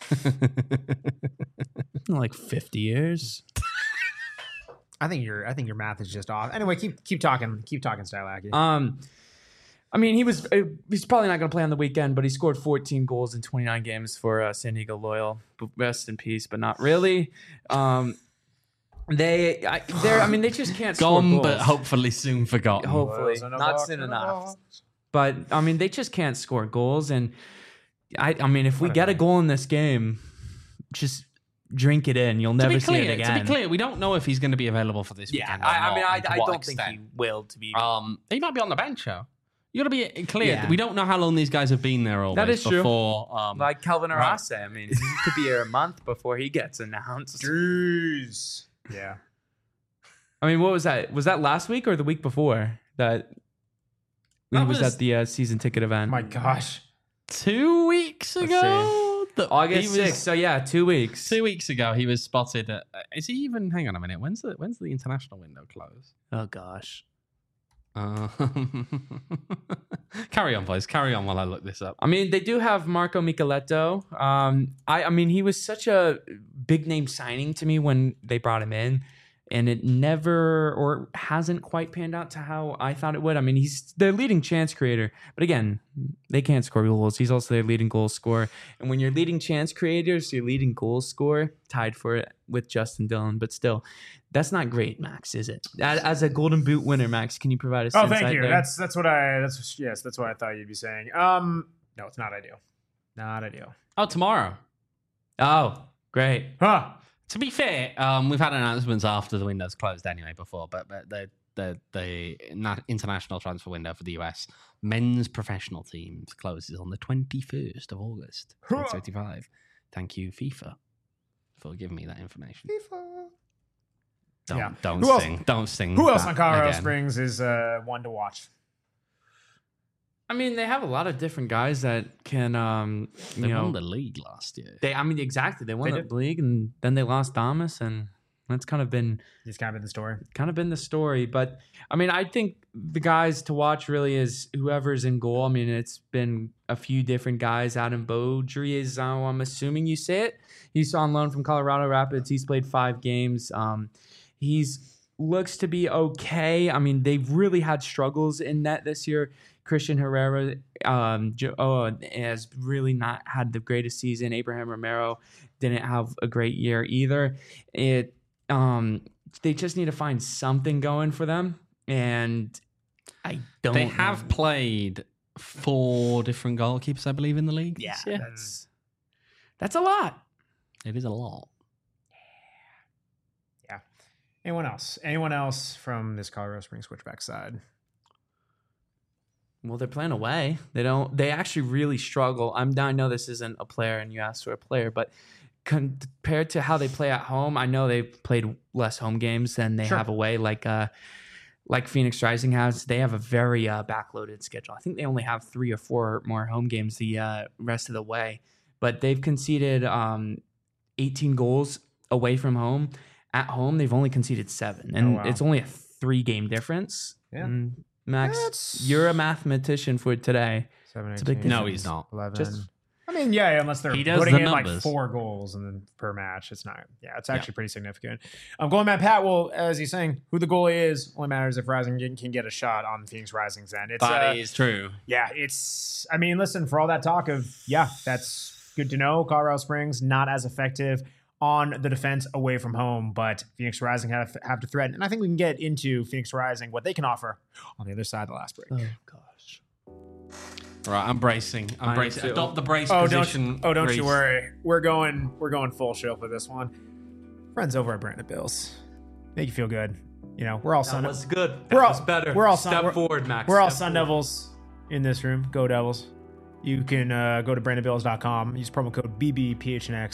Like 50 years. I think your math is just off. Anyway, keep talking. Keep talking, Stylaki. I mean, he's probably not going to play on the weekend, but he scored 14 goals in 29 games for San Diego Loyal. Rest in peace, but not really. They just can't score Gone, goals. but hopefully soon forgotten. Hopefully, not soon enough. But I mean, they just can't score goals, and I mean, if we get a goal in this game, just drink it in. You'll never see it again. To be clear, we don't know if he's going to be available for this weekend. I don't think he will. To be, he might be on the bench, though. You got to be clear. Yeah. We don't know how long these guys have been there always. That is true. Before, like Kelvin Arase. I mean, he could be here a month before he gets announced. Jeez. Yeah. I mean, what was that? Was that last week or the week before that he was at the season ticket event? My gosh. 2 weeks ago? August 6th. So, yeah, 2 weeks. 2 weeks ago, he was spotted at... Is he even... Hang on a minute. When's the international window close? Oh, gosh. Carry on, boys. Carry on while I look this up. I mean, they do have Marco Micheletto. I mean, he was such a big name signing to me when they brought him in, and it never or hasn't quite panned out to how I thought it would. I mean, he's their leading chance creator, but again, they can't score goals. He's also their leading goal scorer. And when you're leading chance creators, your leading goal scorer, tied for it with Justin Dillon, but still, that's not great, Max, is it? As a Golden Boot winner, Max, can you provide us? Oh, thank you. There? That's what I thought you'd be saying. No, it's not ideal. Not ideal. Oh, tomorrow. Oh, great. Huh. To be fair, we've had announcements after the window's closed anyway before, but the international transfer window for the US men's professional teams closes on the 21st of August, 2035. Thank you, FIFA, for giving me that information. FIFA. Don't sing. Who else on Colorado Springs is one to watch? I mean, they have a lot of different guys that can, They won the league last year. They won the league, and then they lost Thomas, and that's kind of been the story. But I mean, I think the guys to watch really is whoever's in goal. I mean, it's been a few different guys. Adam Beaudry is, I'm assuming you say it. He's on loan from Colorado Rapids. He's played 5 games. He's looks to be okay. I mean, they've really had struggles in net this year. Christian Herrera has really not had the greatest season. Abraham Romero didn't have a great year either. They just need to find something going for them, and They have played 4 different goalkeepers, I believe, in the league. Yeah, that's a lot. It is a lot. Yeah. Anyone else from this Colorado Springs Switchback side? Well, they're playing away. They actually really struggle. I know this isn't a player and you asked for a player, but compared to how they play at home, I know they've played less home games than they have away, like Phoenix Rising has. They have a very backloaded schedule. I think they only have 3 or 4 more home games the rest of the way, but they've conceded 18 goals away from home. At home, they've only conceded 7, and it's only a 3-game difference. Yeah. Max, you're a mathematician for today. 7, 18, a big No, he's not. 11. Unless they're putting in like 4 goals and then per match, it's not. Yeah, it's actually pretty significant. Going Matt Pat. Well, as he's saying, who the goalie is only matters if Rising can get a shot on Phoenix Rising's end. That is true. Yeah, it's. I mean, listen, for all that talk of that's good to know. Colorado Springs not as effective on the defense away from home, but Phoenix Rising have to threaten. And I think we can get into Phoenix Rising, what they can offer on the other side of the last break. Oh, gosh. All right, I'm bracing. Adopt the brace position. Don't you worry. We're going full show for this one. Friends over at Brandon Bills. Make you feel good. You know, we're all Sun Devils. That was good. That was better. We're all Step forward, Max. We're all Sun Devils in this room. Go Devils. You can go to BrandonBills.com. Use promo code BBPHNX.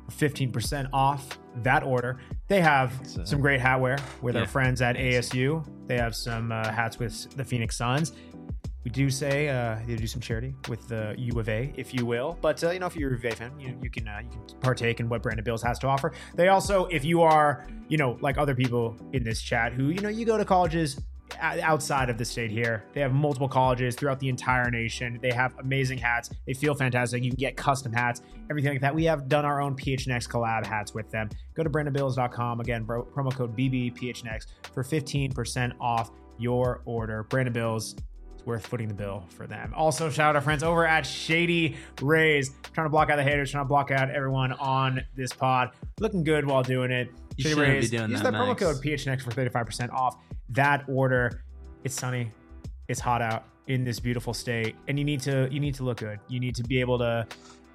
15% off that order. They have some great hatware with our friends at ASU. They have some hats with the Phoenix Suns. We do say they do some charity with the U of A, if you will. But if you're a U of A fan, you can partake in what Brandon Bills has to offer. They also, if you are, like other people in this chat who you go to colleges outside of the state here, they have multiple colleges throughout the entire nation. They have amazing hats. They feel fantastic. You can get custom hats, everything like that. We have done our own PHNX collab hats with them. Go to brandonbills.com. Again, promo code BBPHNX for 15% off your order. Brandon Bills, worth footing the bill for them. Also, shout out our friends over at Shady Rays. Trying to block out the haters, trying to block out everyone on this pod. Looking good while doing it. Shady Rays. Use that promo code PHNX for 35% off that order. It's sunny. It's hot out in this beautiful state, and you need to look good. You need to be able to,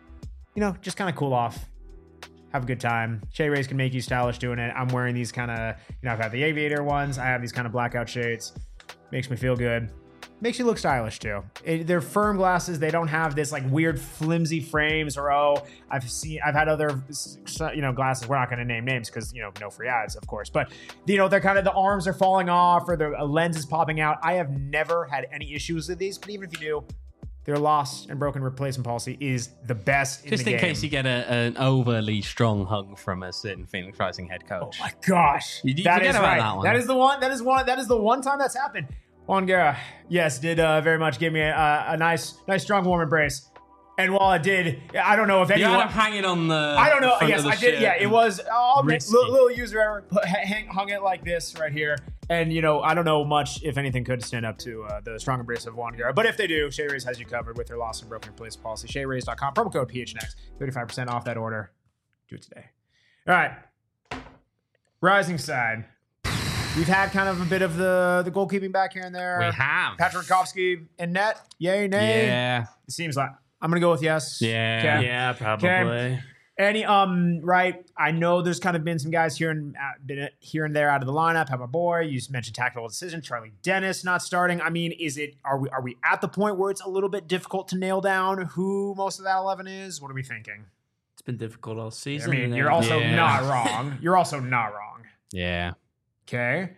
just kind of cool off. Have a good time. Shady Rays can make you stylish doing it. I'm wearing these kind of, I've had the aviator ones. I have these kind of blackout shades. Makes me feel good. Makes you look stylish too. They're firm glasses. They don't have this like weird flimsy frames or I've had other glasses. We're not going to name names because no free ads, of course. But they're kind of, the arms are falling off or the lens is popping out. I have never had any issues with these, but even if you do, their lost and broken replacement policy is the best in the game. Just in case you get an overly strong hug from a certain Phoenix Rising head coach. Oh my gosh, that is right. That one. That is the one. That is the one time that's happened. Juan Guerra, yes, did very much give me a nice, strong, warm embrace. And while it did, I don't know if anyone... You had him hanging on the... I don't know. Yes, I did. Yeah, it was... little user error. Hung it like this right here. And, I don't know much, if anything, could stand up to the strong embrace of Juan Guerra. But if they do, Shady Rays has you covered with their lost and broken replacement policy. ShadyRays.com. Promo code PHNX. 35% off that order. Do it today. All right. Rising side. We've had kind of a bit of the goalkeeping back here and there. We have. Patrick Rakowski in net. Yay, nay? Yeah. It seems like I'm going to go with yes. Yeah. Okay. Yeah, probably. Okay. Right. I know there's kind of been some guys here and there out of the lineup. How my boy? You mentioned tactical decision. Charlie Dennis not starting. I mean, are we at the point where it's a little bit difficult to nail down who most of that 11 is? What are we thinking? It's been difficult all season. I mean, you're also not wrong. You're also not wrong. Yeah. Okay.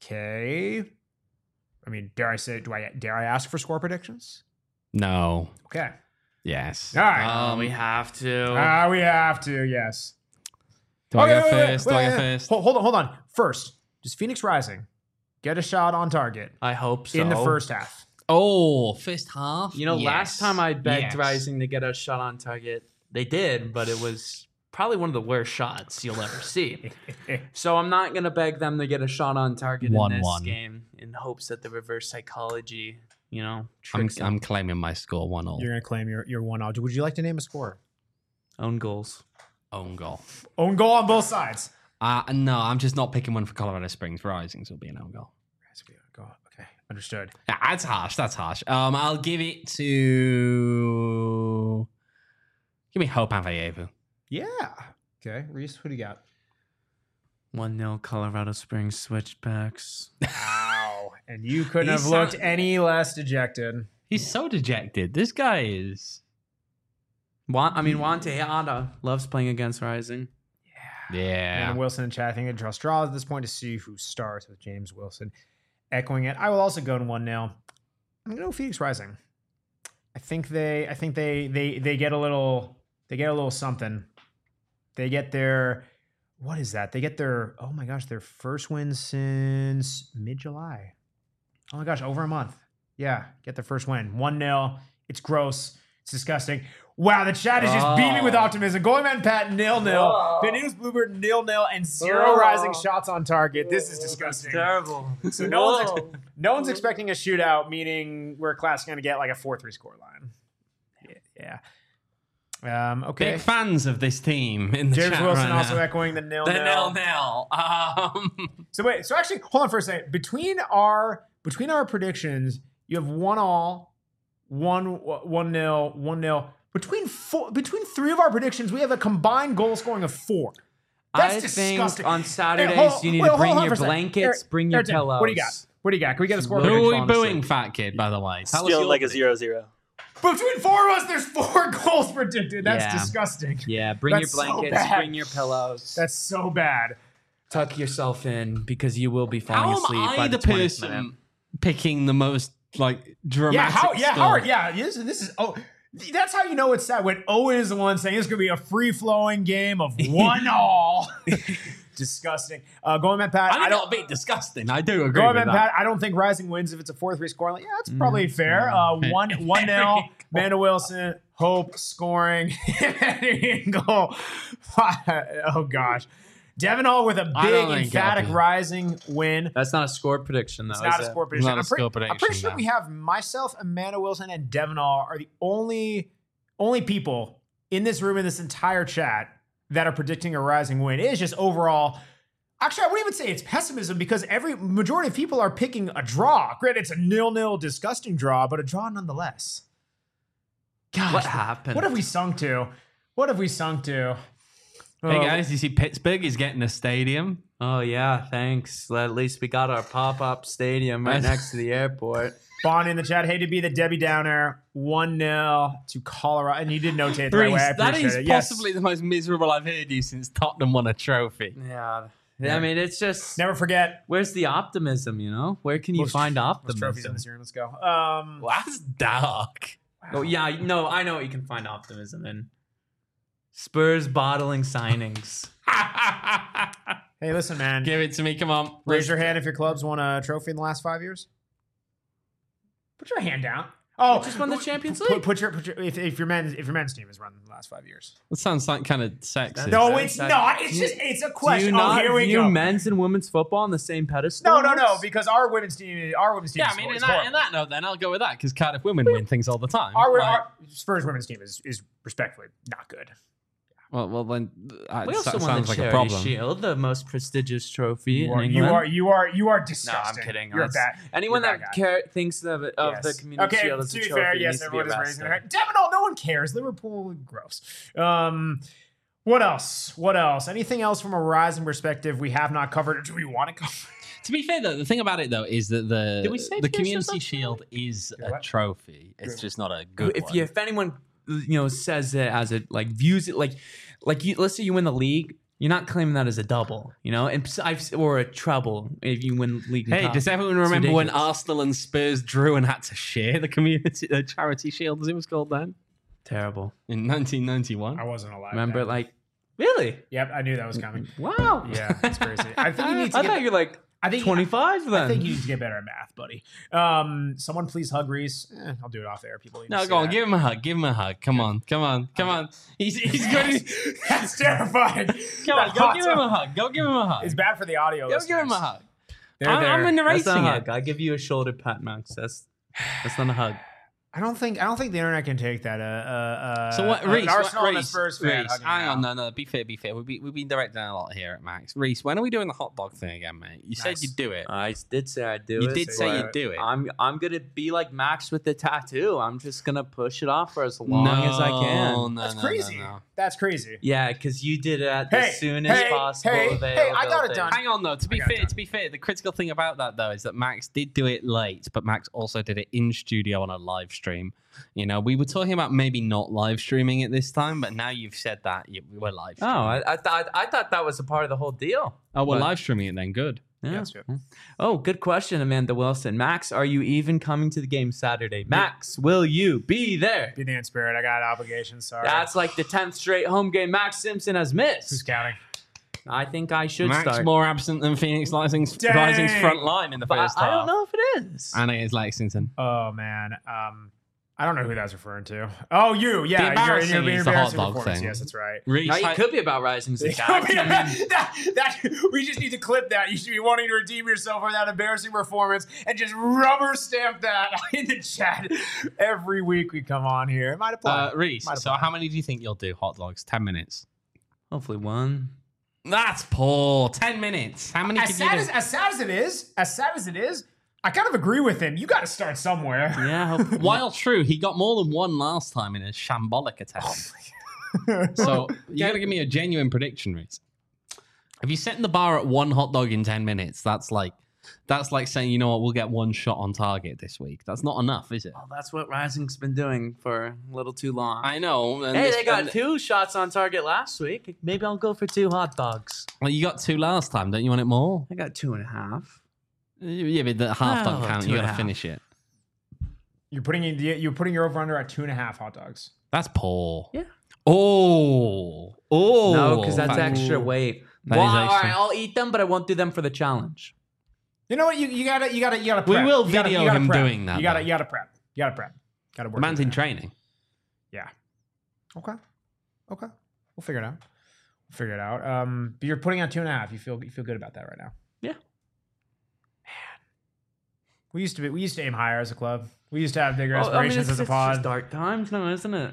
I mean, dare I ask for score predictions? No. Okay. Yes. All right. We have to. We have to, yes. Do I go first? Hold on. First, does Phoenix Rising get a shot on target I hope so. in the first half? Oh, first half? Last time I begged Rising to get a shot on target, they did, but it was probably one of the worst shots you'll ever see. So I'm not going to beg them to get a shot on target in this game in hopes that the reverse psychology, tricks I'm claiming my score 1-0. You're going to claim your 1-0. Would you like to name a score? Own goals. Own goal. Own goal on both sides. No, I'm just not picking one for Colorado Springs. Rising, so it'll be an own goal. Okay, understood. That's harsh. I'll give it to... Give me Hope Avayevu. Yeah. Okay, Reese, who do you got? 1-0 Colorado Springs Switchbacks. Wow. And you couldn't have looked any less dejected. He's so dejected. This guy is... Juan Tejada loves playing against Rising. Yeah. And Wilson and chat, I think they draw straws at this point to see who starts with James Wilson echoing it. I will also go to 1-0. I'm going to go Phoenix Rising. I think they get a little something. They get their, what is that? They get their, oh my gosh, their first win since mid-July. Oh my gosh, over a month. Yeah, get their first win. 1-0. It's gross. It's disgusting. Wow, the chat is just beaming with optimism. Going Man Pat 0-0. Benito's Bluebird 0-0 and 0 Rising shots on target. This is disgusting. Terrible. So no one's expecting a shootout, meaning we're classically going to get like a 4-3 score line. Yeah. Okay. Big fans of this team in the James chat Wilson right also now. echoing the 0-0. The 0-0. So actually, hold on for a second. Between our predictions, you have 1-1, 1-0, 1-0. Between three of our predictions, we have a combined goal scoring of 4. That's disgusting. Think on Saturdays you need to bring your blankets, bring your pillows. What do you got? Can we get a score? Who are we booing, fat kid, by the way? Feeling like a 0-0. Between four of us, there's 4 goals predicted. That's Yeah. disgusting. Yeah, bring That's so your blankets, bad. bring your pillows. That's so bad. Tuck yourself in because you will be How falling am asleep by I the the 20th minute. person picking the most like dramatic? Howard. Yeah, this is. Oh, that's how you know it's sad when Owen is the one saying it's going to be a free flowing game of 1-1. Disgusting. Going back, Pat. I don't be disgusting. I do agree Going with back, that. Pat. I don't think Rising wins if it's a 4-3 score. Like, yeah, that's probably fair. 1-0. Amanda Wilson, Hope scoring goal. Oh gosh. Devin Hall with a I big don't think emphatic it'll be. Rising win. That's not a score prediction, though. It's not is a it? score prediction. Not a score I'm pretty prediction, sure no. we have myself, Amanda Wilson, and Devin Hall are the only people in this room in this entire chat that are predicting a Rising win. It is just overall. Actually, I wouldn't even say it's pessimism because every majority of people are picking a draw. Granted, it's a 0-0 disgusting draw, but a draw nonetheless. Gosh, What happened? What have we sunk to? Hey Oh, guys, you see Pittsburgh is getting a stadium. Oh, yeah, thanks. At least we got our pop-up stadium right next to the airport. Bond in the chat. Hey, to be the Debbie Downer. 1-0 to Colorado. And you did notate it the right way. I That appreciate is it. Yes. possibly the most miserable I've heard you since Tottenham won a trophy. Yeah. I mean, it's just... Never forget. Where's the optimism, you know? Where can you find Most trophies in optimism? this year. Let's go. Well, that's dark. Oh, yeah, no, I know what you can find optimism in. Spurs bottling signings. Hey, listen, man. Give it to me, come on. Raise your hand if your club's won a trophy in the last 5 years. Put your hand down. Oh, Just won the Champions put, League. put your if your men's team has run in the last 5 years. That sounds like kind of sexist. No, that- it's that- not. It's just it's a Do question. you not here we view go. men's and women's football on the same pedestal? No, because our women's team Yeah, I is mean, in horrible. that note, then I'll go with that because Cardiff women win things all the time. Our Spurs women's team is respectfully not good. Well, then We also that won sounds the like a Charity problem. Shield, the most prestigious trophy in You England. are No, disgusting. I'm kidding. You're That's- bad. Anyone you're a that bad guy. thinks of the Yes. Community Okay, Shield as to a be trophy fair, needs yes, to be everyone is raising their arrested. hand. Devin, no one cares. Liverpool, gross. What else? Anything else from a Rising perspective we have not covered, or do we want to cover? To be fair, though, the thing about it though is that Did we say the Pearson Community something? Shield is a what? trophy. It's just not a good one. If anyone says it as a views it like you, let's say you win the league, you're not claiming that as a double, or a treble if you win league. and Hey, cup. does everyone It's remember when ridiculous. Arsenal and Spurs drew and had to share the Charity Shield, as it was called then, Terrible. in 1991? I wasn't alive. Remember, then. like, really? Yep, I knew that was coming. Wow. Yeah, that's crazy. I think you need to I get. thought you're like I think 25 then. I think you need to get better at math, buddy. Someone please hug Reese. I'll do it off air. People need to No, see go on, that. give him a hug. Give him a hug. Come on. He's good. That's terrifying. Come on, go give him a hug. Go give him a hug. It's bad for the audio. Go give him a listeners. hug. They're I'm there. narrating That's not a it. hug. I give you a shoulder pat, Max. That's not a hug. I don't think the internet can take that. So what, an Reese? Arsenal and a Reese, Spurs fan Reese, hugging hang on, out. no. Be fair. We've been directing a lot here at Max. Reese, when are we doing the hot dog thing again, mate? You said Nice. you'd do it. I did say I'd do You it. did say you'd do it. I'm gonna be like Max with the tattoo. I'm just gonna push it off for as long as I can. No, That's no, crazy. no. That's crazy. Yeah, because you did it at the Hey, soonest hey, possible hey, availability. I got it done. Hang on though. To be got it fair, the critical thing about that though is that Max did do it late, but Max also did it in studio on a live stream. We were talking about maybe not live streaming it this time, but now you've said that we were live. Oh, Streaming. I thought that was a part of the whole deal. We're but- live streaming it then. Good. Yeah. That's good. Oh, good question, Amanda Wilson. Max, are you even coming to the game Saturday? Max, will you be there? Be there in spirit. I got obligations. Sorry. That's like the 10th straight home game Max Simpson has Who's missed. counting? I think I should Max start. more absent than Phoenix Rising's Dang. front line in the But first I half. don't know if it is. And it is Lexington. Oh man. I don't know who that's referring to. Oh, you. Yeah. The embarrassing you're is the hot embarrassing dog performance. thing. Yes, that's right. Reese, Now, it could be about Rising's attack. We just need to clip that. You should be wanting to redeem yourself for that embarrassing performance and just rubber stamp that in the chat every week we come on here. It might apply. Reese, Might so apply. how many do you think you'll do hot dogs? 10 minutes. Hopefully one. That's poor. 10 minutes. How many As could you do? sad as it is, I kind of agree with him. You got to start somewhere. Yeah. Hopefully. While true, he got more than one last time in a shambolic attempt. So you got to give me a genuine prediction, Reese. If you're setting the bar at one hot dog in 10 minutes, that's like That's like saying, you know what, we'll get one shot on target this week. That's not enough, is it? Well, that's what Rising's been doing for a little too long. I know. And Hey, they got 2 shots on target last week. Maybe I'll go for 2 hot dogs. Well, you got 2 last time. Don't you want it more? I got 2.5. Yeah, but the half don't count. You got to 2.5. finish it. You're putting your over under at 2.5 hot dogs. That's poor. Yeah. Oh. No, because that's That- extra weight. That Well, is all extra. right, I'll eat them, but I won't do them for the challenge. You know what? You gotta prep. We will You gotta- video you gotta him prep. doing that, You gotta though. prep. You gotta prep. Gotta work. The man's with in that. training. Yeah. Okay. We'll figure it out. But you're putting on 2.5. You feel good about that right now. Yeah. Man. We used to aim higher as a club. We used to have bigger aspirations as a It's pod. just dark times, no, isn't it?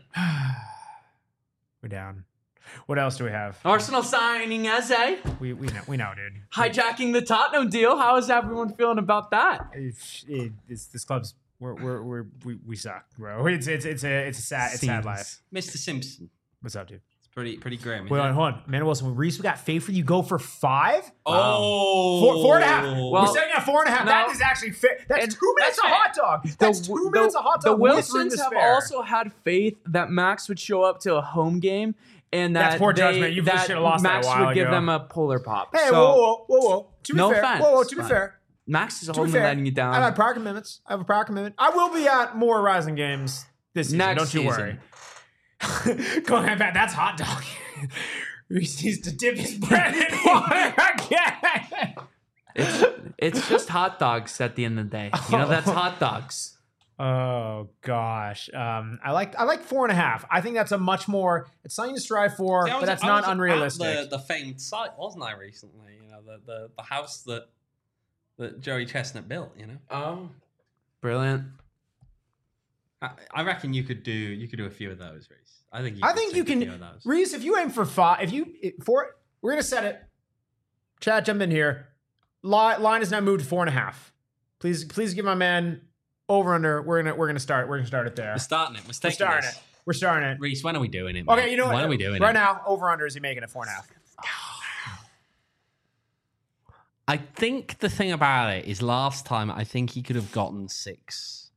We're down. What else do we have? Arsenal signing Eze, We know, dude. hijacking the Tottenham deal. How is everyone feeling about that? This club's we suck, bro. It's a sad life. Mr. Simpson. What's up, dude? It's pretty grim. Wait, hold on. Amanda Wilson, Reese, we got faith for you. Go for 5? Oh. 4.5. Well, We're saying at 4.5. no. That is actually fair. That's And 2 minutes that's of hot dog. That's 2 minutes of hot The dog. with room Wilsons to have spare. also had faith that Max would show up to a home game and that That's poor judgment. You that should have lost that a Max while would give ago. them a polar pop. Hey, So, whoa. To be No fair. offense, Whoa, to be but- fair. Max is To be only fair. letting you down. I have prior commitments. I will be at more Rising games this season. Next Don't you season. worry. Going back, that's hot dog. Reese needs to dip his bread in water again. It's just hot dogs at the end of the day. You know, that's hot dogs. Oh gosh, I like 4.5. I think that's a much more. It's something to strive for, but that's not unrealistic. The famed site, wasn't I, recently? You know, the house that Joey Chestnut built. You know. Oh, brilliant. I reckon you could do a few of those, Reese. I think you take a few can, of those. Reese. If you aim for 5, we're gonna set it. Chad, jump in here. Line is now moved to 4.5. Please give my man over under. We're gonna start it there. We're starting it. We're starting it. Reese, when are we doing it? Okay, mate? you know what? When are we doing right it? now? Over under is he making it 4.5? I think the thing about it is last time I think he could have gotten 6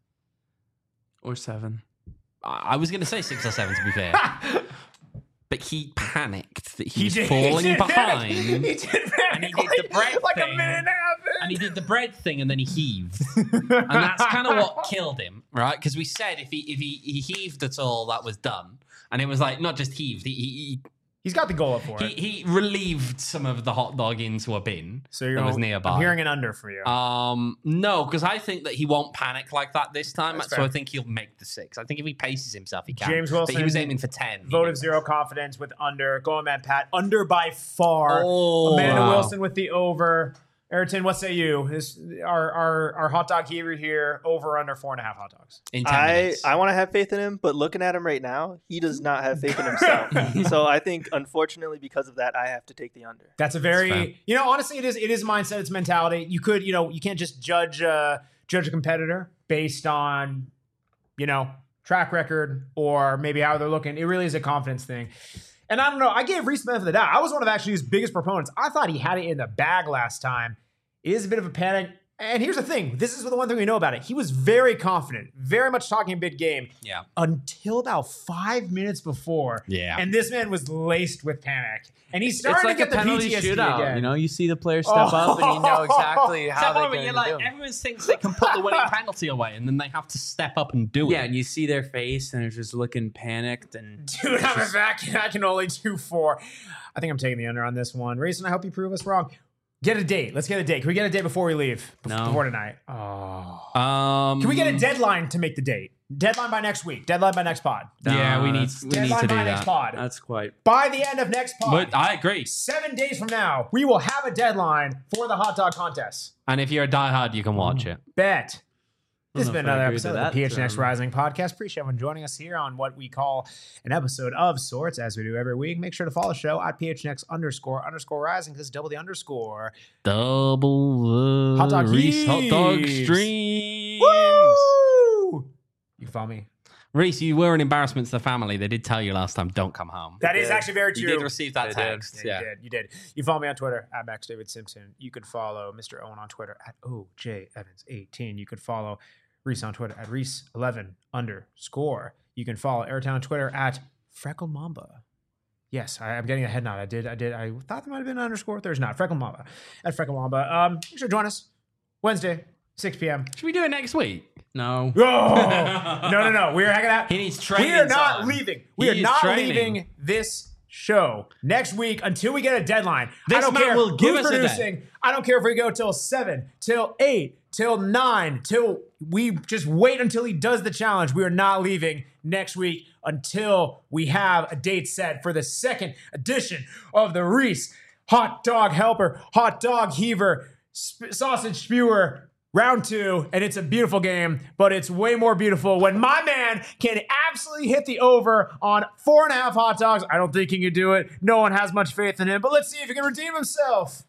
Or 7. I was going to say 6 or 7 to be fair, but he panicked that he was did- falling he did behind. He did And he did the bread like a thing. minute and a half in. And he did the bread thing, and then he heaved, and that's kind of what killed him, right? Because we said if he heaved at all, that was done, and it was like not just heaved. He's got the goal up for it. He relieved some of the hot dog into a bin So you're that was nearby. I'm hearing an under for you. No, because I think that he won't panic like that this time. That's So fair. I think he'll make the 6. I think if he paces himself, he can. James but Wilson he was aiming for 10. He Voted did. 0 confidence with under. Going man Pat under by far. Oh, Amanda wow. Wilson with the over. Ayrton, what say you? Our hot dog heaver here over under 4.5 hot dogs. In 10 minutes. I want to have faith in him, but looking at him right now, he does not have faith in himself. So I think, unfortunately, because of that, I have to take the under. That's a fair. very honestly it is mindset, it's mentality. You could you can't just judge a competitor based on track record or maybe how they're looking. It really is a confidence thing. And I don't know. I gave Reese the benefit of the doubt. I was one of actually his biggest proponents. I thought he had it in the bag last time. It is a bit of a panic. And here's the thing. This is the one thing we know about it. He was very confident, very much talking a big game. Yeah. Until about 5 minutes before. Yeah. And this man was laced with panic. And he's It's starting like to a get the penalty PTSD shootout. again. You know, you see the player step up and you know exactly how they're going to do. Everyone thinks they can put the winning penalty away, and then they have to step up and do it. Yeah, and you see their face and they're just looking panicked and Dude, I can only do 4. I think I'm taking the under on this one. Rayson, I hope you prove us wrong. Get a date. Let's get a date. Can we get a date before we leave? No. Before tonight. Oh. Can Can we get a deadline to make the date? Deadline by next week. Deadline by next pod. Yeah, we need Deadline to do by next that. pod. that's quite. By the end of next pod. But I agree. 7 days from now, we will have a deadline for the hot dog contest. And if you're a diehard, you can watch it. Bet. This has know been if I another agree episode to of the that, PHNX Rising podcast. Appreciate everyone joining us here on what we call an episode of sorts, as we do every week. Make sure to follow the show at PHNX__Rising because double the underscore. Double the Hot dog Reese hot dog heaves. streams. Woo! You can follow me Reese, you were an embarrassment to the family. They did tell you last time, don't come home. That is actually very true. You did receive that text. Yeah, you did. You follow me on Twitter at Max David Simpson. You can follow Mr. Owen on Twitter at OJEvans18. You can follow Reese on Twitter at Reese11_. You can follow Airtown on Twitter at Freckle Mamba. Yes, I'm getting a head nod. I did. I thought there might have been an underscore. There's not. Freckle Mamba at Freckle Mamba. Make sure to join us Wednesday, 6 p.m. Should we do it next week? No. Oh, no. We're hanging out. He needs training. We are not time. leaving. We are He is not training. leaving this show next week until we get a deadline. This I don't man care will give who's us a producing. I don't care if we go till 7, till 8, till 9, till we just wait until he does the challenge. We are not leaving next week until we have a date set for the second edition of the Reese Hot Dog Helper, Hot Dog Heaver, Sausage Spewer Round 2, and it's a beautiful game, but it's way more beautiful when my man can absolutely hit the over on 4.5 hot dogs. I don't think he can do it. No one has much faith in him, but let's see if he can redeem himself.